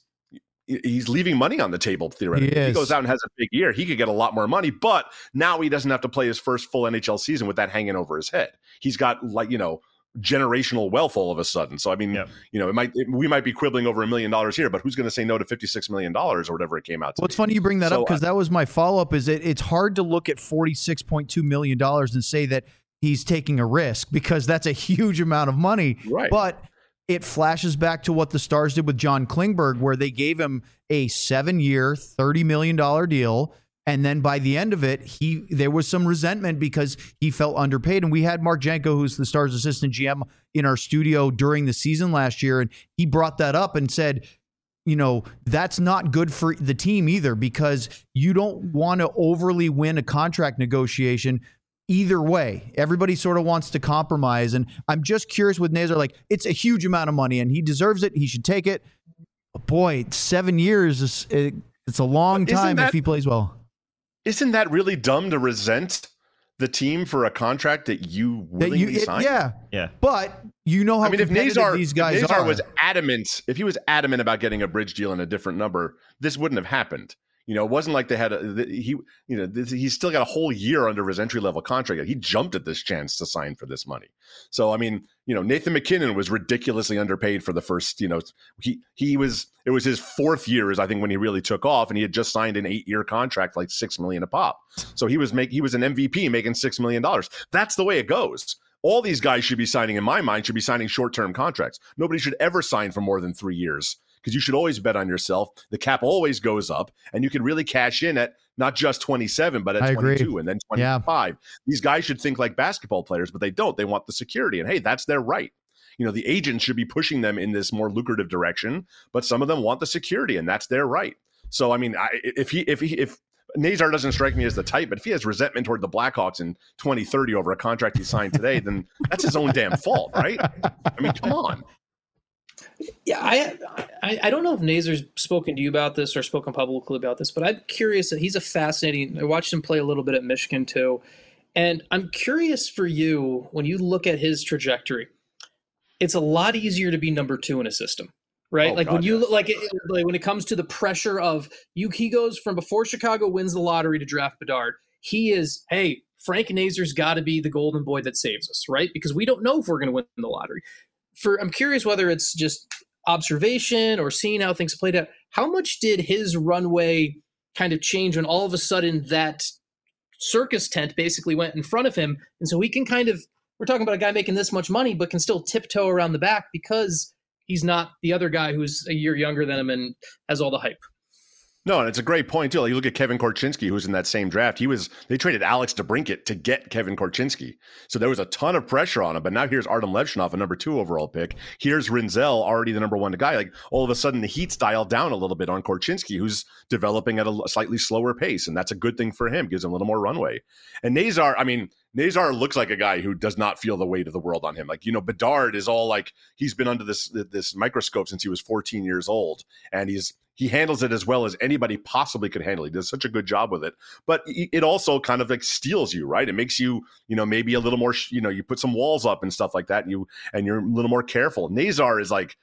he's leaving money on the table theoretically. If he goes out and has a big year, he could get a lot more money, but now he doesn't have to play his first full NHL season with that hanging over his head. He's got generational wealth all of a sudden. So I mean, we might be quibbling over $1 million here, but who's going to say no to $56 million or whatever it came out to? Well, it's funny you bring that up, because that was my follow up. Is it's hard to look at $46.2 million and say that he's taking a risk because that's a huge amount of money. Right. But it flashes back to what the Stars did with John Klingberg, where they gave him a 7-year, $30 million deal. And then by the end of it, there was some resentment because he felt underpaid. And we had Mark Janko, who's the Stars assistant GM, in our studio during the season last year. And he brought that up and said, that's not good for the team either, because you don't want to overly win a contract negotiation either way. Everybody sort of wants to compromise. And I'm just curious with Nazar, like, it's a huge amount of money and he deserves it. He should take it. But boy, 7 years, it's a long time if he plays well. Isn't that really dumb to resent the team for a contract that you willingly signed? Yeah. But how competitive these guys are. If he was adamant about getting a bridge deal and a different number, this wouldn't have happened. It wasn't like they had he's still got a whole year under his entry level contract. He jumped at this chance to sign for this money. So, Nathan MacKinnon was ridiculously underpaid for the first, it was his 4th year is I think when he really took off, and he had just signed an 8-year contract, like $6 million a pop. So he was an MVP making $6 million. That's the way it goes. All these guys should be signing, in my mind, short-term contracts. Nobody should ever sign for more than 3 years, because you should always bet on yourself. The cap always goes up, and you can really cash in at not just 27, but at 22 and then 25. Yeah. These guys should think like basketball players, but they don't. They want the security, and hey, that's their right. The agents should be pushing them in this more lucrative direction, but some of them want the security, and that's their right. So, if Nazar doesn't strike me as the type, but if he has resentment toward the Blackhawks in 2030 over a contract he signed today, then that's his own damn fault, right? Come on. Yeah, I don't know if Nazar's spoken to you about this or spoken publicly about this, but I'm curious. That he's a fascinating. I watched him play a little bit at Michigan too, and I'm curious for you, when you look at his trajectory, it's a lot easier to be number 2 in a system, right? When it comes to the pressure of he goes from before Chicago wins the lottery to draft Bedard. He is, hey, Frank Nazar's got to be the golden boy that saves us, right? Because we don't know if we're going to win the lottery. I'm curious whether it's just observation or seeing how things played out. How much did his runway kind of change when all of a sudden that circus tent basically went in front of him? And so he can we're talking about a guy making this much money, but can still tiptoe around the back because he's not the other guy who's a year younger than him and has all the hype. No, and it's a great point too. Like, you look at Kevin Korchinski, who's in that same draft. They traded Alex DeBrincat to get Kevin Korchinski. So there was a ton of pressure on him. But now here's Artem Levchinov, a number 2 overall pick. Here's Rinzel, already the number 1 guy. Like, all of a sudden the heat's dialed down a little bit on Korchinski, who's developing at a slightly slower pace. And that's a good thing for him. Gives him a little more runway. And Nazar looks like a guy who does not feel the weight of the world on him. Like, Bedard is all like, he's been under this microscope since he was 14 years old. And he handles it as well as anybody possibly could handle. He does such a good job with it. But it also kind of like steals you, right? It makes you, maybe a little more, you put some walls up and stuff like that, and you're a little more careful. Nazar is like,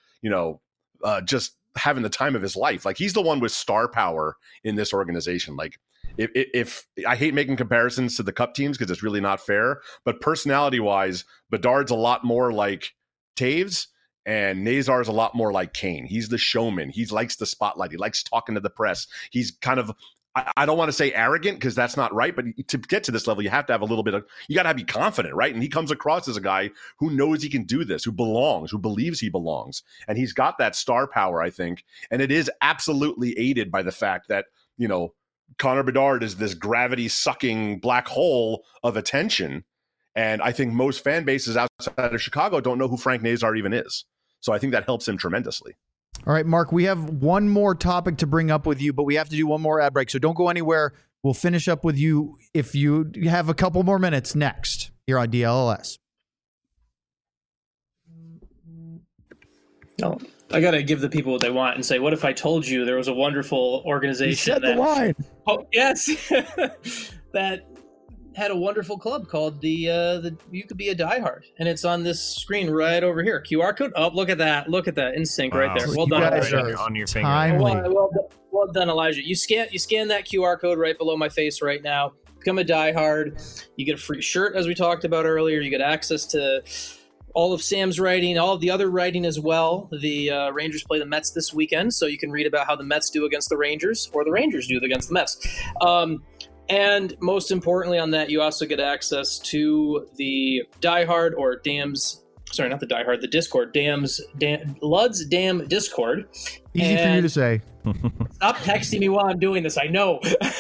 just having the time of his life. Like, he's the one with star power in this organization. Like, if I hate making comparisons to the Cup teams because it's really not fair, but personality wise, Bedard's a lot more like Taves. And Nazar is a lot more like Kane. He's the showman. He likes the spotlight. He likes talking to the press. He's kind of, I don't want to say arrogant because that's not right, but to get to this level, you have to have a little bit of, you got to be confident, right? And he comes across as a guy who knows he can do this, who belongs, who believes he belongs. And he's got that star power, I think. And it is absolutely aided by the fact that, Connor Bedard is this gravity-sucking black hole of attention. And I think most fan bases outside of Chicago don't know who Frank Nazar even is. So I think that helps him tremendously. All right, Mark, we have one more topic to bring up with you, but we have to do one more ad break. So don't go anywhere. We'll finish up with you if you have a couple more minutes next here on DLLS. No, I got to give the people what they want and say, what if I told you there was a wonderful organization you said the line. Oh, yes. that had a wonderful club called the You Could Be a Diehard, and it's on this screen right over here. QR code. Oh, look at that! Look at that in sync right there. Well done, Elijah. On your finger. Well done, Elijah. You scan that QR code right below my face right now. Become a diehard. You get a free shirt, as we talked about earlier. You get access to all of Sam's writing, all of the other writing as well. The Rangers play the Mets this weekend, so you can read about how the Mets do against the Rangers, or the Rangers do against the Mets. And most importantly on that, you also get access to the Diehard or Dams. Sorry, not the Diehard, the Discord. Lud's Dam Discord. Easy for you to say. Stop texting me while I'm doing this. I know.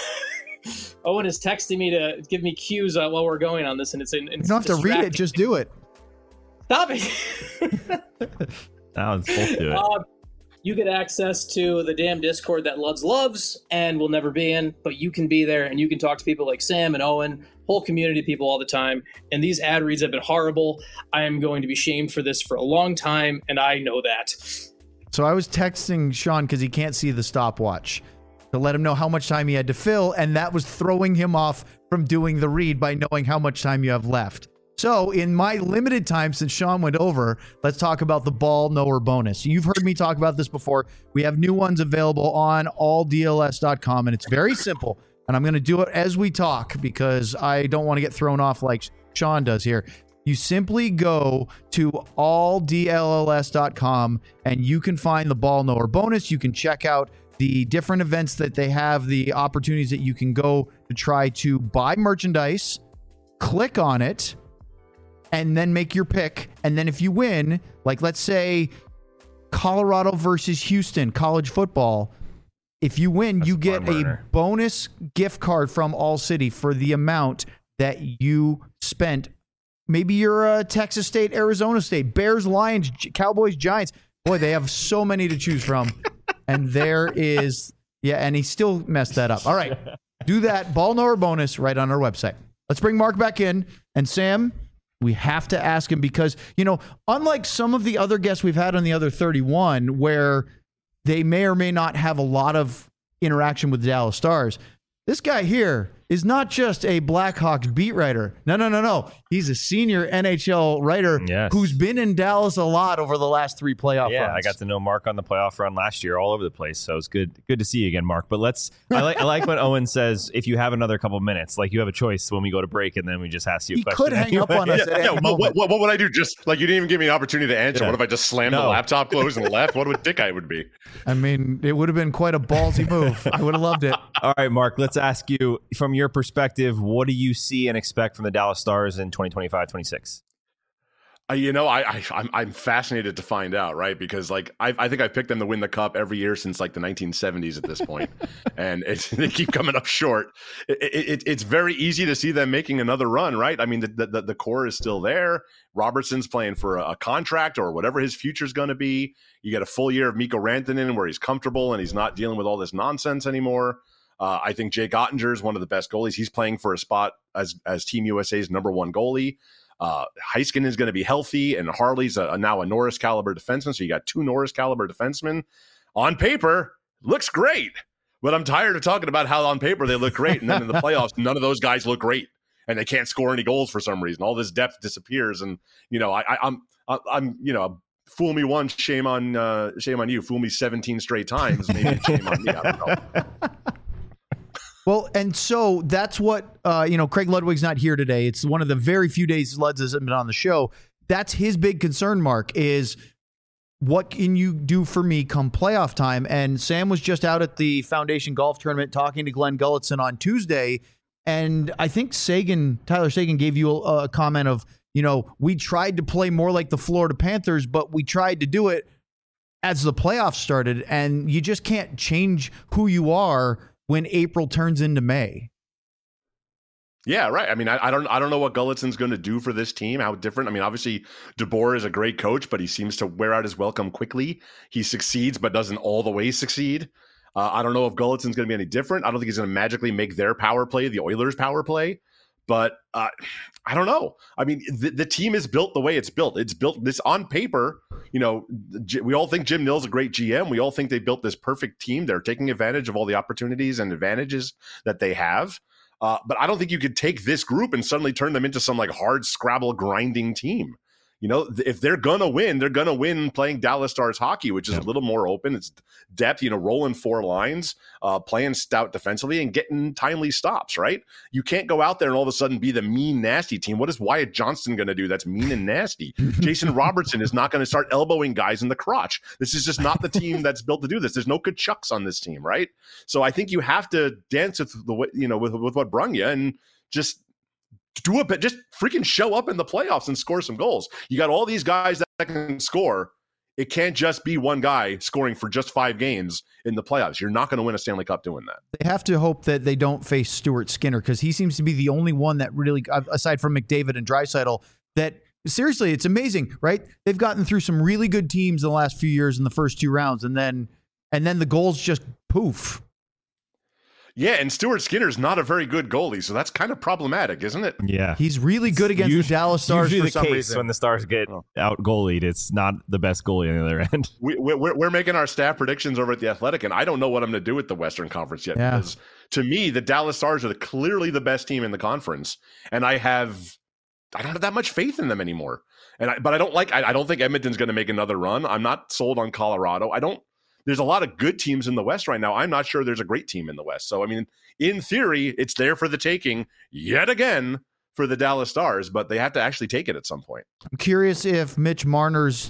Owen is texting me to give me cues while we're going on this, and it's you don't have to read it. Just do it. Stop it. Now it's both do it. You get access to the damn Discord that Luds loves and will never be in, but you can be there and you can talk to people like Sam and Owen, whole community of people all the time. And these ad reads have been horrible. I am going to be shamed for this for a long time, and I know that. So I was texting Sean because he can't see the stopwatch to let him know how much time he had to fill, and that was throwing him off from doing the read by knowing how much time you have left. So in my limited time since Sean went over, let's talk about the ball knower bonus. You've heard me talk about this before. We have new ones available on alldls.com, and it's very simple. And I'm going to do it as we talk because I don't want to get thrown off like Sean does here. You simply go to alldls.com and you can find the ball knower bonus. You can check out the different events that they have, the opportunities that you can go to try to buy merchandise, click on it, and then make your pick. And then if you win, like let's say Colorado versus Houston, college football, if you win, you get a bonus gift card from All City for the amount that you spent. Maybe you're Texas State, Arizona State, Bears, Lions, Cowboys, Giants. Boy, they have so many to choose from. And there is, and he still messed that up. All right, do that ball knower bonus right on our website. Let's bring Mark back in. And Sam, we have to ask him because, unlike some of the other guests we've had on the other 31, where they may or may not have a lot of interaction with the Dallas Stars, this guy here is not just a Blackhawks beat writer. No. He's a senior NHL writer who's been in Dallas a lot over the last 3 playoff runs. I got to know Mark on the playoff run last year all over the place. So it's good to see you again, Mark. But I like when Owen says, if you have another couple minutes, like you have a choice when we go to break and then we just ask you a question. He could hang up on us. What would I do? Just like you didn't even give me an opportunity to answer. What if I just slammed the laptop closed and left? What would dick I would be? I mean, it would have been quite a ballsy move. I would have loved it. All right, Mark, let's ask you from your perspective, what do you see and expect from the Dallas Stars in 2025-26? I'm fascinated to find out, right? Because I think I've picked them to win the cup every year since the 1970s at this point, and they keep coming up short. It's very easy to see them making another run, right? I mean, the core is still there. Robertson's playing for a contract or whatever his future is going to be. You get a full year of Mikko Rantanen where he's comfortable and he's not dealing with all this nonsense anymore. I think Jake Ottinger is one of the best goalies. He's playing for a spot as Team USA's number 1 goalie. Heiskanen is going to be healthy, and Harley's now a Norris caliber defenseman. So you got 2 Norris caliber defensemen. On paper, looks great, but I'm tired of talking about how on paper they look great, and then in the playoffs, none of those guys look great, and they can't score any goals for some reason. All this depth disappears, and I'm fool me once, shame on you. Fool me 17 straight times, maybe shame on me. I don't know. Well, and so that's what, Craig Ludwig's not here today. It's one of the very few days Luds hasn't been on the show. That's his big concern, Mark, is what can you do for me come playoff time? And Sam was just out at the Foundation Golf Tournament talking to Glenn Gulletson on Tuesday. And I think Tyler Seguin gave you a comment of, we tried to play more like the Florida Panthers, but we tried to do it as the playoffs started. And you just can't change who you are when April turns into May. Yeah, right. I mean, I don't know what Gulletson's going to do for this team, how different. I mean, obviously, DeBoer is a great coach, but he seems to wear out his welcome quickly. He succeeds, but doesn't all the way succeed. I don't know if Gulletson's going to be any different. I don't think he's going to magically make their power play the Oilers' power play. But I don't know. I mean, the team is built the way it's built. It's built this on paper. We all think Jim Nill's a great GM. We all think they built this perfect team. They're taking advantage of all the opportunities and advantages that they have. But I don't think you could take this group and suddenly turn them into some hard Scrabble grinding team. if they're going to win, they're going to win playing Dallas Stars hockey, which is a little more open. It's depth, rolling 4 lines, playing stout defensively and getting timely stops, right? You can't go out there and all of a sudden be the mean, nasty team. What is Wyatt Johnston going to do that's mean and nasty? Jason Robertson is not going to start elbowing guys in the crotch. This is just not the team that's built to do this. There's no Kachucks on this team, right? So I think you have to dance with the way, with what brung you and just do it, but just freaking show up in the playoffs and score some goals. You got all these guys that can score. It can't just be one guy scoring for just 5 games in the playoffs. You're not going to win a Stanley Cup doing that. They have to hope that they don't face Stuart Skinner because he seems to be the only one that really, aside from McDavid and Draisaitl, that seriously, it's amazing, right? They've gotten through some really good teams in the last few years in the first 2 rounds, and then the goals just poof. Yeah, and Stuart Skinner's not a very good goalie, so that's kind of problematic, isn't it? Yeah. He's really good against the Dallas Stars for some reason. When the Stars get out goalied, it's not the best goalie on the other end. We're making our staff predictions over at The Athletic, and I don't know what I'm going to do with the Western Conference yet. Yeah. Because to me, the Dallas Stars are clearly the best team in the conference, and I don't have that much faith in them anymore. But I don't think Edmonton's going to make another run. I'm not sold on Colorado. There's a lot of good teams in the West right now. I'm not sure there's a great team in the West. So, I mean, in theory, it's there for the taking yet again for the Dallas Stars, but they have to actually take it at some point. I'm curious if Mitch Marner's,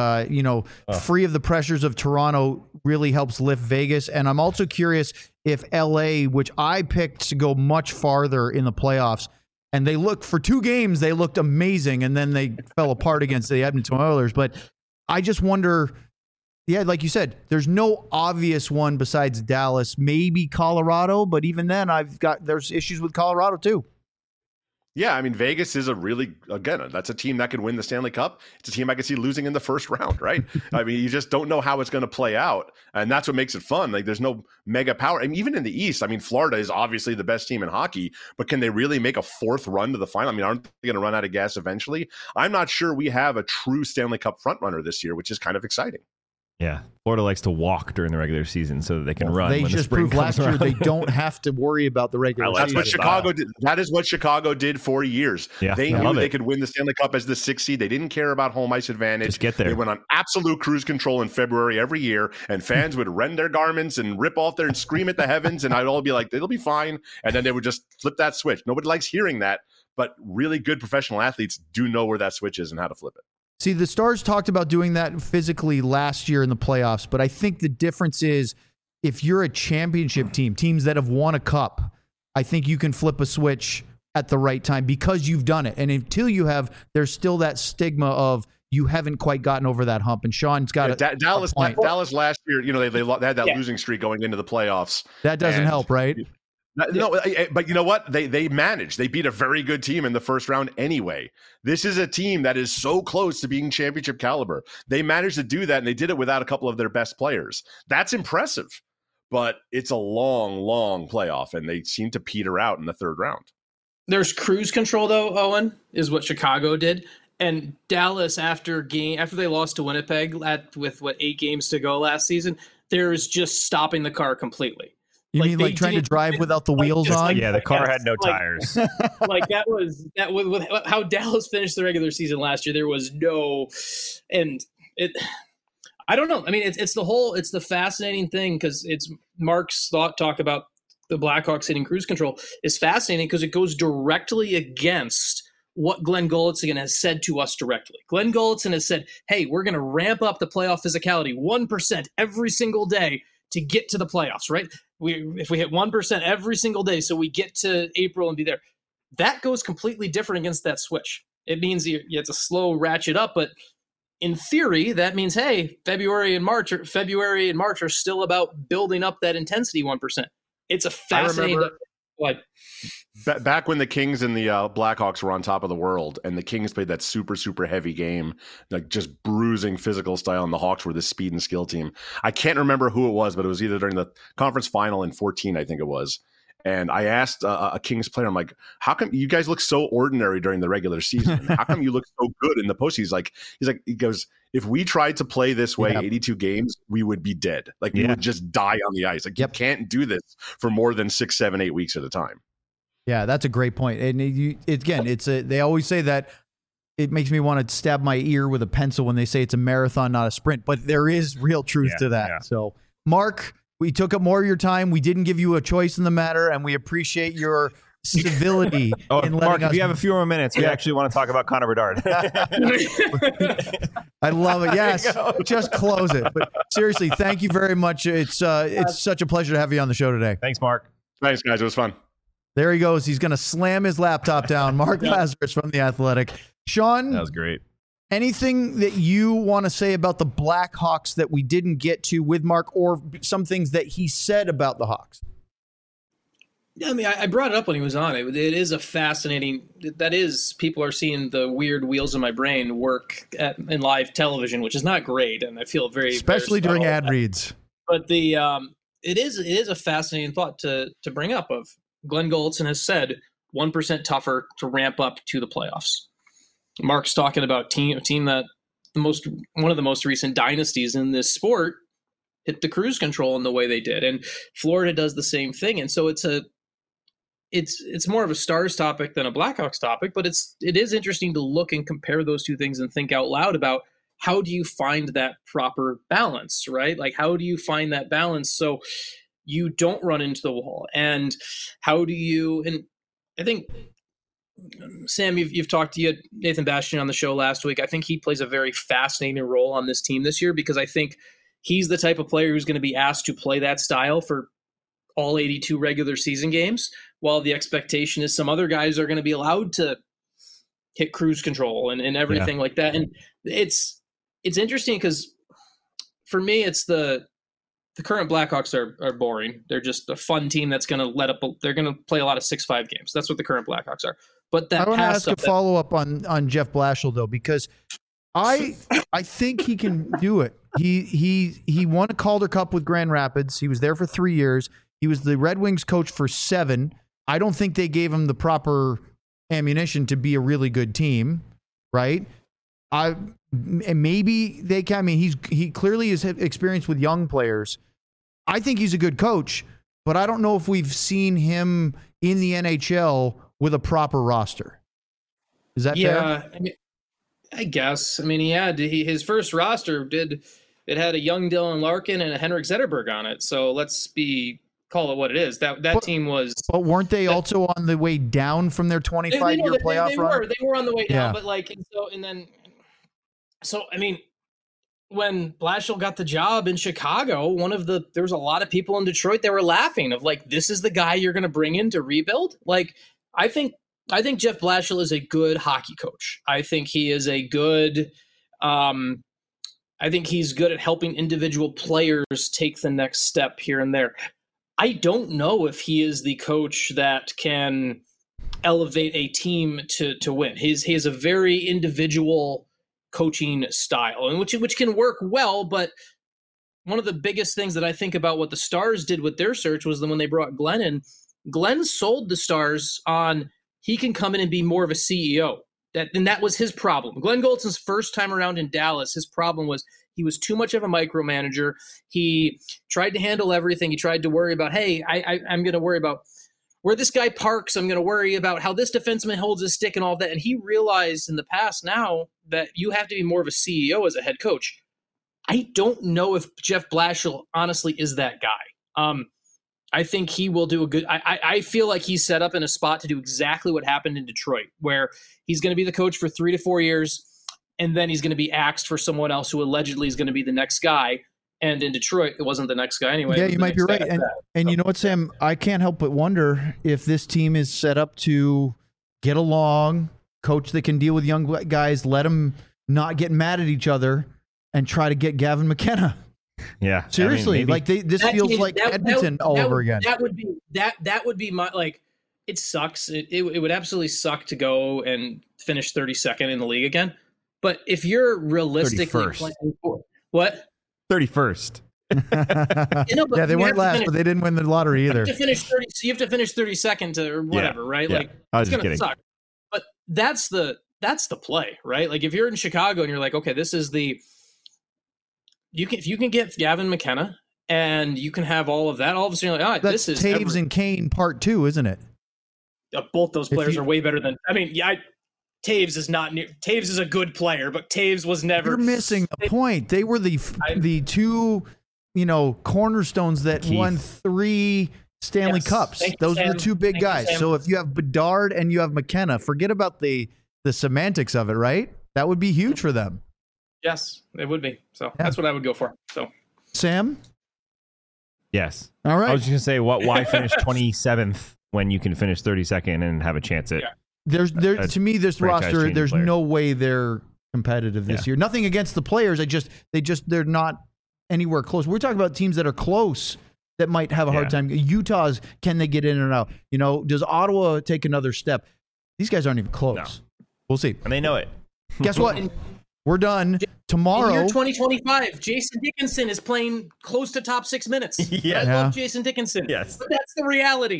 free of the pressures of Toronto really helps lift Vegas. And I'm also curious if LA, which I picked to go much farther in the playoffs, and for 2 games, they looked amazing, and then they fell apart against the Edmonton Oilers. But I just wonder... Yeah, like you said, there's no obvious one besides Dallas, maybe Colorado, but even then there's issues with Colorado too. Yeah, I mean, Vegas is that's a team that could win the Stanley Cup. It's a team I could see losing in the first round, right? I mean, you just don't know how it's going to play out, and that's what makes it fun. Like, there's no mega power. I mean, even in the East, I mean, Florida is obviously the best team in hockey, but can they really make a 4th run to the final? I mean, aren't they going to run out of gas eventually? I'm not sure we have a true Stanley Cup frontrunner this year, which is kind of exciting. Yeah, Florida likes to walk during the regular season so that they can run. They when just the proved last year they don't have to worry about the regular season. That's what Chicago did. That is what Chicago did for years. Yeah, they knew they could win the Stanley Cup as the 6th seed. They didn't care about home ice advantage. Just get there. They went on absolute cruise control in February every year, and fans would rend their garments and rip off there and scream at the heavens, and I'd all be like, it'll be fine. And then they would just flip that switch. Nobody likes hearing that, but really good professional athletes do know where that switch is and how to flip it. See, the Stars talked about doing that physically last year in the playoffs, but I think the difference is if you're a championship team, teams that have won a cup, I think you can flip a switch at the right time because you've done it. And until you have, there's still that stigma of you haven't quite gotten over that hump. And Sean's got Dallas last year, they had that losing streak going into the playoffs. That doesn't help, right? No, but you know what? They managed. They beat a very good team in the first round anyway. This is a team that is so close to being championship caliber. They managed to do that, and they did it without a couple of their best players. That's impressive, but it's a long, long playoff, and they seem to peter out in the 3rd round. There's cruise control, though, Owen, is what Chicago did. And Dallas, after they lost to Winnipeg with 8 games to go last season, there's just stopping the car completely. You mean like trying to drive without the wheels on? Yeah, the car had no tires. Like that was with how Dallas finished the regular season last year. There was no, and it. I don't know. I mean, it's the fascinating thing because it's Mark's talk about the Blackhawks hitting cruise control is fascinating because it goes directly against what Glenn Gulutzan has said to us directly. Glenn Gulutzan has said, "Hey, we're going to ramp up the playoff physicality 1% every single day to get to the playoffs." Right? If we hit 1% every single day, so we get to April and be there, that goes completely different against that switch. It means you have to slow ratchet up, but in theory, that means, hey, February and March are still about building up that intensity 1%. It's a fascinating. Back when the Kings and the Blackhawks were on top of the world, and the Kings played that super, super heavy game, like just bruising physical style, and the Hawks were the speed and skill team. I can't remember who it was, but it was either during the conference final in 2014, I think it was. And I asked a Kings player, I'm like, how come you guys look so ordinary during the regular season? How come you look so good in the postseason? He goes, if we tried to play this way 82 games, we would be dead. Like we would just die on the ice. Like you can't do this for more than 6, 7, 8 weeks at a time. Yeah, that's a great point. And they always say that it makes me want to stab my ear with a pencil when they say it's a marathon, not a sprint. But there is real truth to that. Yeah. So, Mark, we took up more of your time. We didn't give you a choice in the matter, and we appreciate your civility. Mark, if you have a few more minutes, we actually want to talk about Connor Bedard. I love it. Yes, just close it. But seriously, thank you very much. It's such a pleasure to have you on the show today. Thanks, Mark. Thanks, guys. It was fun. There he goes. He's going to slam his laptop down. Mark Lazarus from The Athletic. Sean, that was great. Anything that you want to say about the Blackhawks that we didn't get to with Mark, or some things that he said about the Hawks? Yeah, I mean, I brought it up when he was on. It is a fascinating. That is, people are seeing the weird wheels in my brain work in live television, which is not great, and I feel especially during ad reads. But it is a fascinating thought to bring up. Of Glenn Goldson has said 1% tougher to ramp up to the playoffs. Mark's talking about a team that one of the most recent dynasties in this sport hit the cruise control in the way they did, and Florida does the same thing. And so it's more of a Stars topic than a Blackhawks topic, but it is interesting to look and compare those two things and think out loud about how do you find that proper balance, right? Like, how do you find that balance so you don't run into the wall? And how do you, and I think, Sam, you've talked to Nathan Bastian on the show last week. I think he plays a very fascinating role on this team this year, because I think he's the type of player who's going to be asked to play that style for all 82 regular season games, while the expectation is some other guys are going to be allowed to hit cruise control and everything like that. And it's interesting because for me, it's the current Blackhawks are boring. They're just a fun team that's going to they're going to play a lot of 6-5 games. That's what the current Blackhawks are. But that I want to ask a follow up on Jeff Blashill though, because I think he can do it. He won a Calder Cup with Grand Rapids. He was there for 3 years. He was the Red Wings coach for 7. I don't think they gave him the proper ammunition to be a really good team, right? And maybe they can. I mean, he clearly has experience with young players. I think he's a good coach, but I don't know if we've seen him in the NHL with a proper roster. Is that fair? I mean, I guess. I mean, his first roster had a young Dylan Larkin and a Henrik Zetterberg on it. So let's call it what it is. That team was. But weren't they also on the way down from their 25-year playoff run? They were on the way down, but I mean, when Blashill got the job in Chicago, there was a lot of people in Detroit that were laughing of like, this is the guy you're going to bring in to rebuild. Like, I think Jeff Blashill is a good hockey coach. I think he is a good. I think he's good at helping individual players take the next step here and there. I don't know if he is the coach that can elevate a team to win. He has a very individual coaching style, and which can work well. But one of the biggest things that I think about what the Stars did with their search was when they brought Glenn in. Glenn sold the Stars on he can come in and be more of a CEO. That was his problem. Glenn Goldson's first time around in Dallas, his problem was he was too much of a micromanager. He tried to handle everything. He tried to worry about, hey, I'm going to worry about where this guy parks. I'm going to worry about how this defenseman holds his stick and all that. And he realized in the past now that you have to be more of a CEO as a head coach. I don't know if Jeff Blashill honestly is that guy. I think he will do a good. I feel like he's set up in a spot to do exactly what happened in Detroit, where he's going to be the coach for 3 to 4 years, and then he's going to be axed for someone else who allegedly is going to be the next guy. And in Detroit, it wasn't the next guy anyway. Yeah, you might be right. And you know what, Sam? I can't help but wonder if this team is set up to get along, coach that can deal with young guys, let them not get mad at each other, and try to get Gavin McKenna. Yeah, seriously, this feels like Edmonton all over again. That would be my like. It sucks. It would absolutely suck to go and finish 32nd in the league again. But if you're realistically playing for what 31st, yeah, they weren't last, but they didn't win the lottery either. You have to finish 32nd or whatever, right? Yeah. Like it's gonna kidding. Suck. But that's the play, right? Like if you're in Chicago and you're like, okay, this is the. If you can get Gavin McKenna and you can have all of that, all of a sudden you're like, this is Taves and Kane part 2, isn't it? Both those players are way better than. I mean, Taves is not near. Taves is a good player, but Taves was never. You're missing the point. They were the two, cornerstones that won 3 Stanley Cups. Those are the 2 big guys. So if you have Bedard and you have McKenna, forget about the semantics of it, right? That would be huge for them. Yes, it would be. So that's what I would go for. So Sam? Yes. All right. I was just going to say, why finish 27th when you can finish 32nd and have a chance at... Yeah. To me, this roster, there's no way they're competitive this year. Nothing against the players. They're not anywhere close. We're talking about teams that are close that might have a hard time. Utah's, can they get in and out? Does Ottawa take another step? These guys aren't even close. No. We'll see. And they know it. Guess what? We're done. Tomorrow. In year 2025, Jason Dickinson is playing close to top 6 minutes. I love Jason Dickinson. Yes. But that's the reality.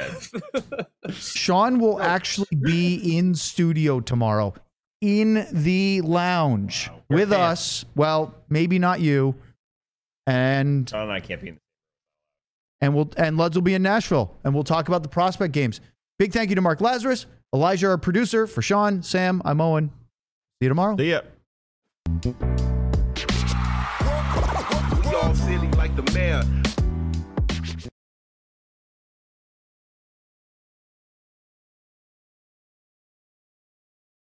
Sean will actually be in studio tomorrow in the lounge with us. Well, maybe not you. And Sean and I can't be in. And Luds will be in Nashville, and we'll talk about the prospect games. Big thank you to Mark Lazarus, Elijah, our producer. For Sean, Sam, I'm Owen. See you tomorrow. See ya. We all silly like the mayor.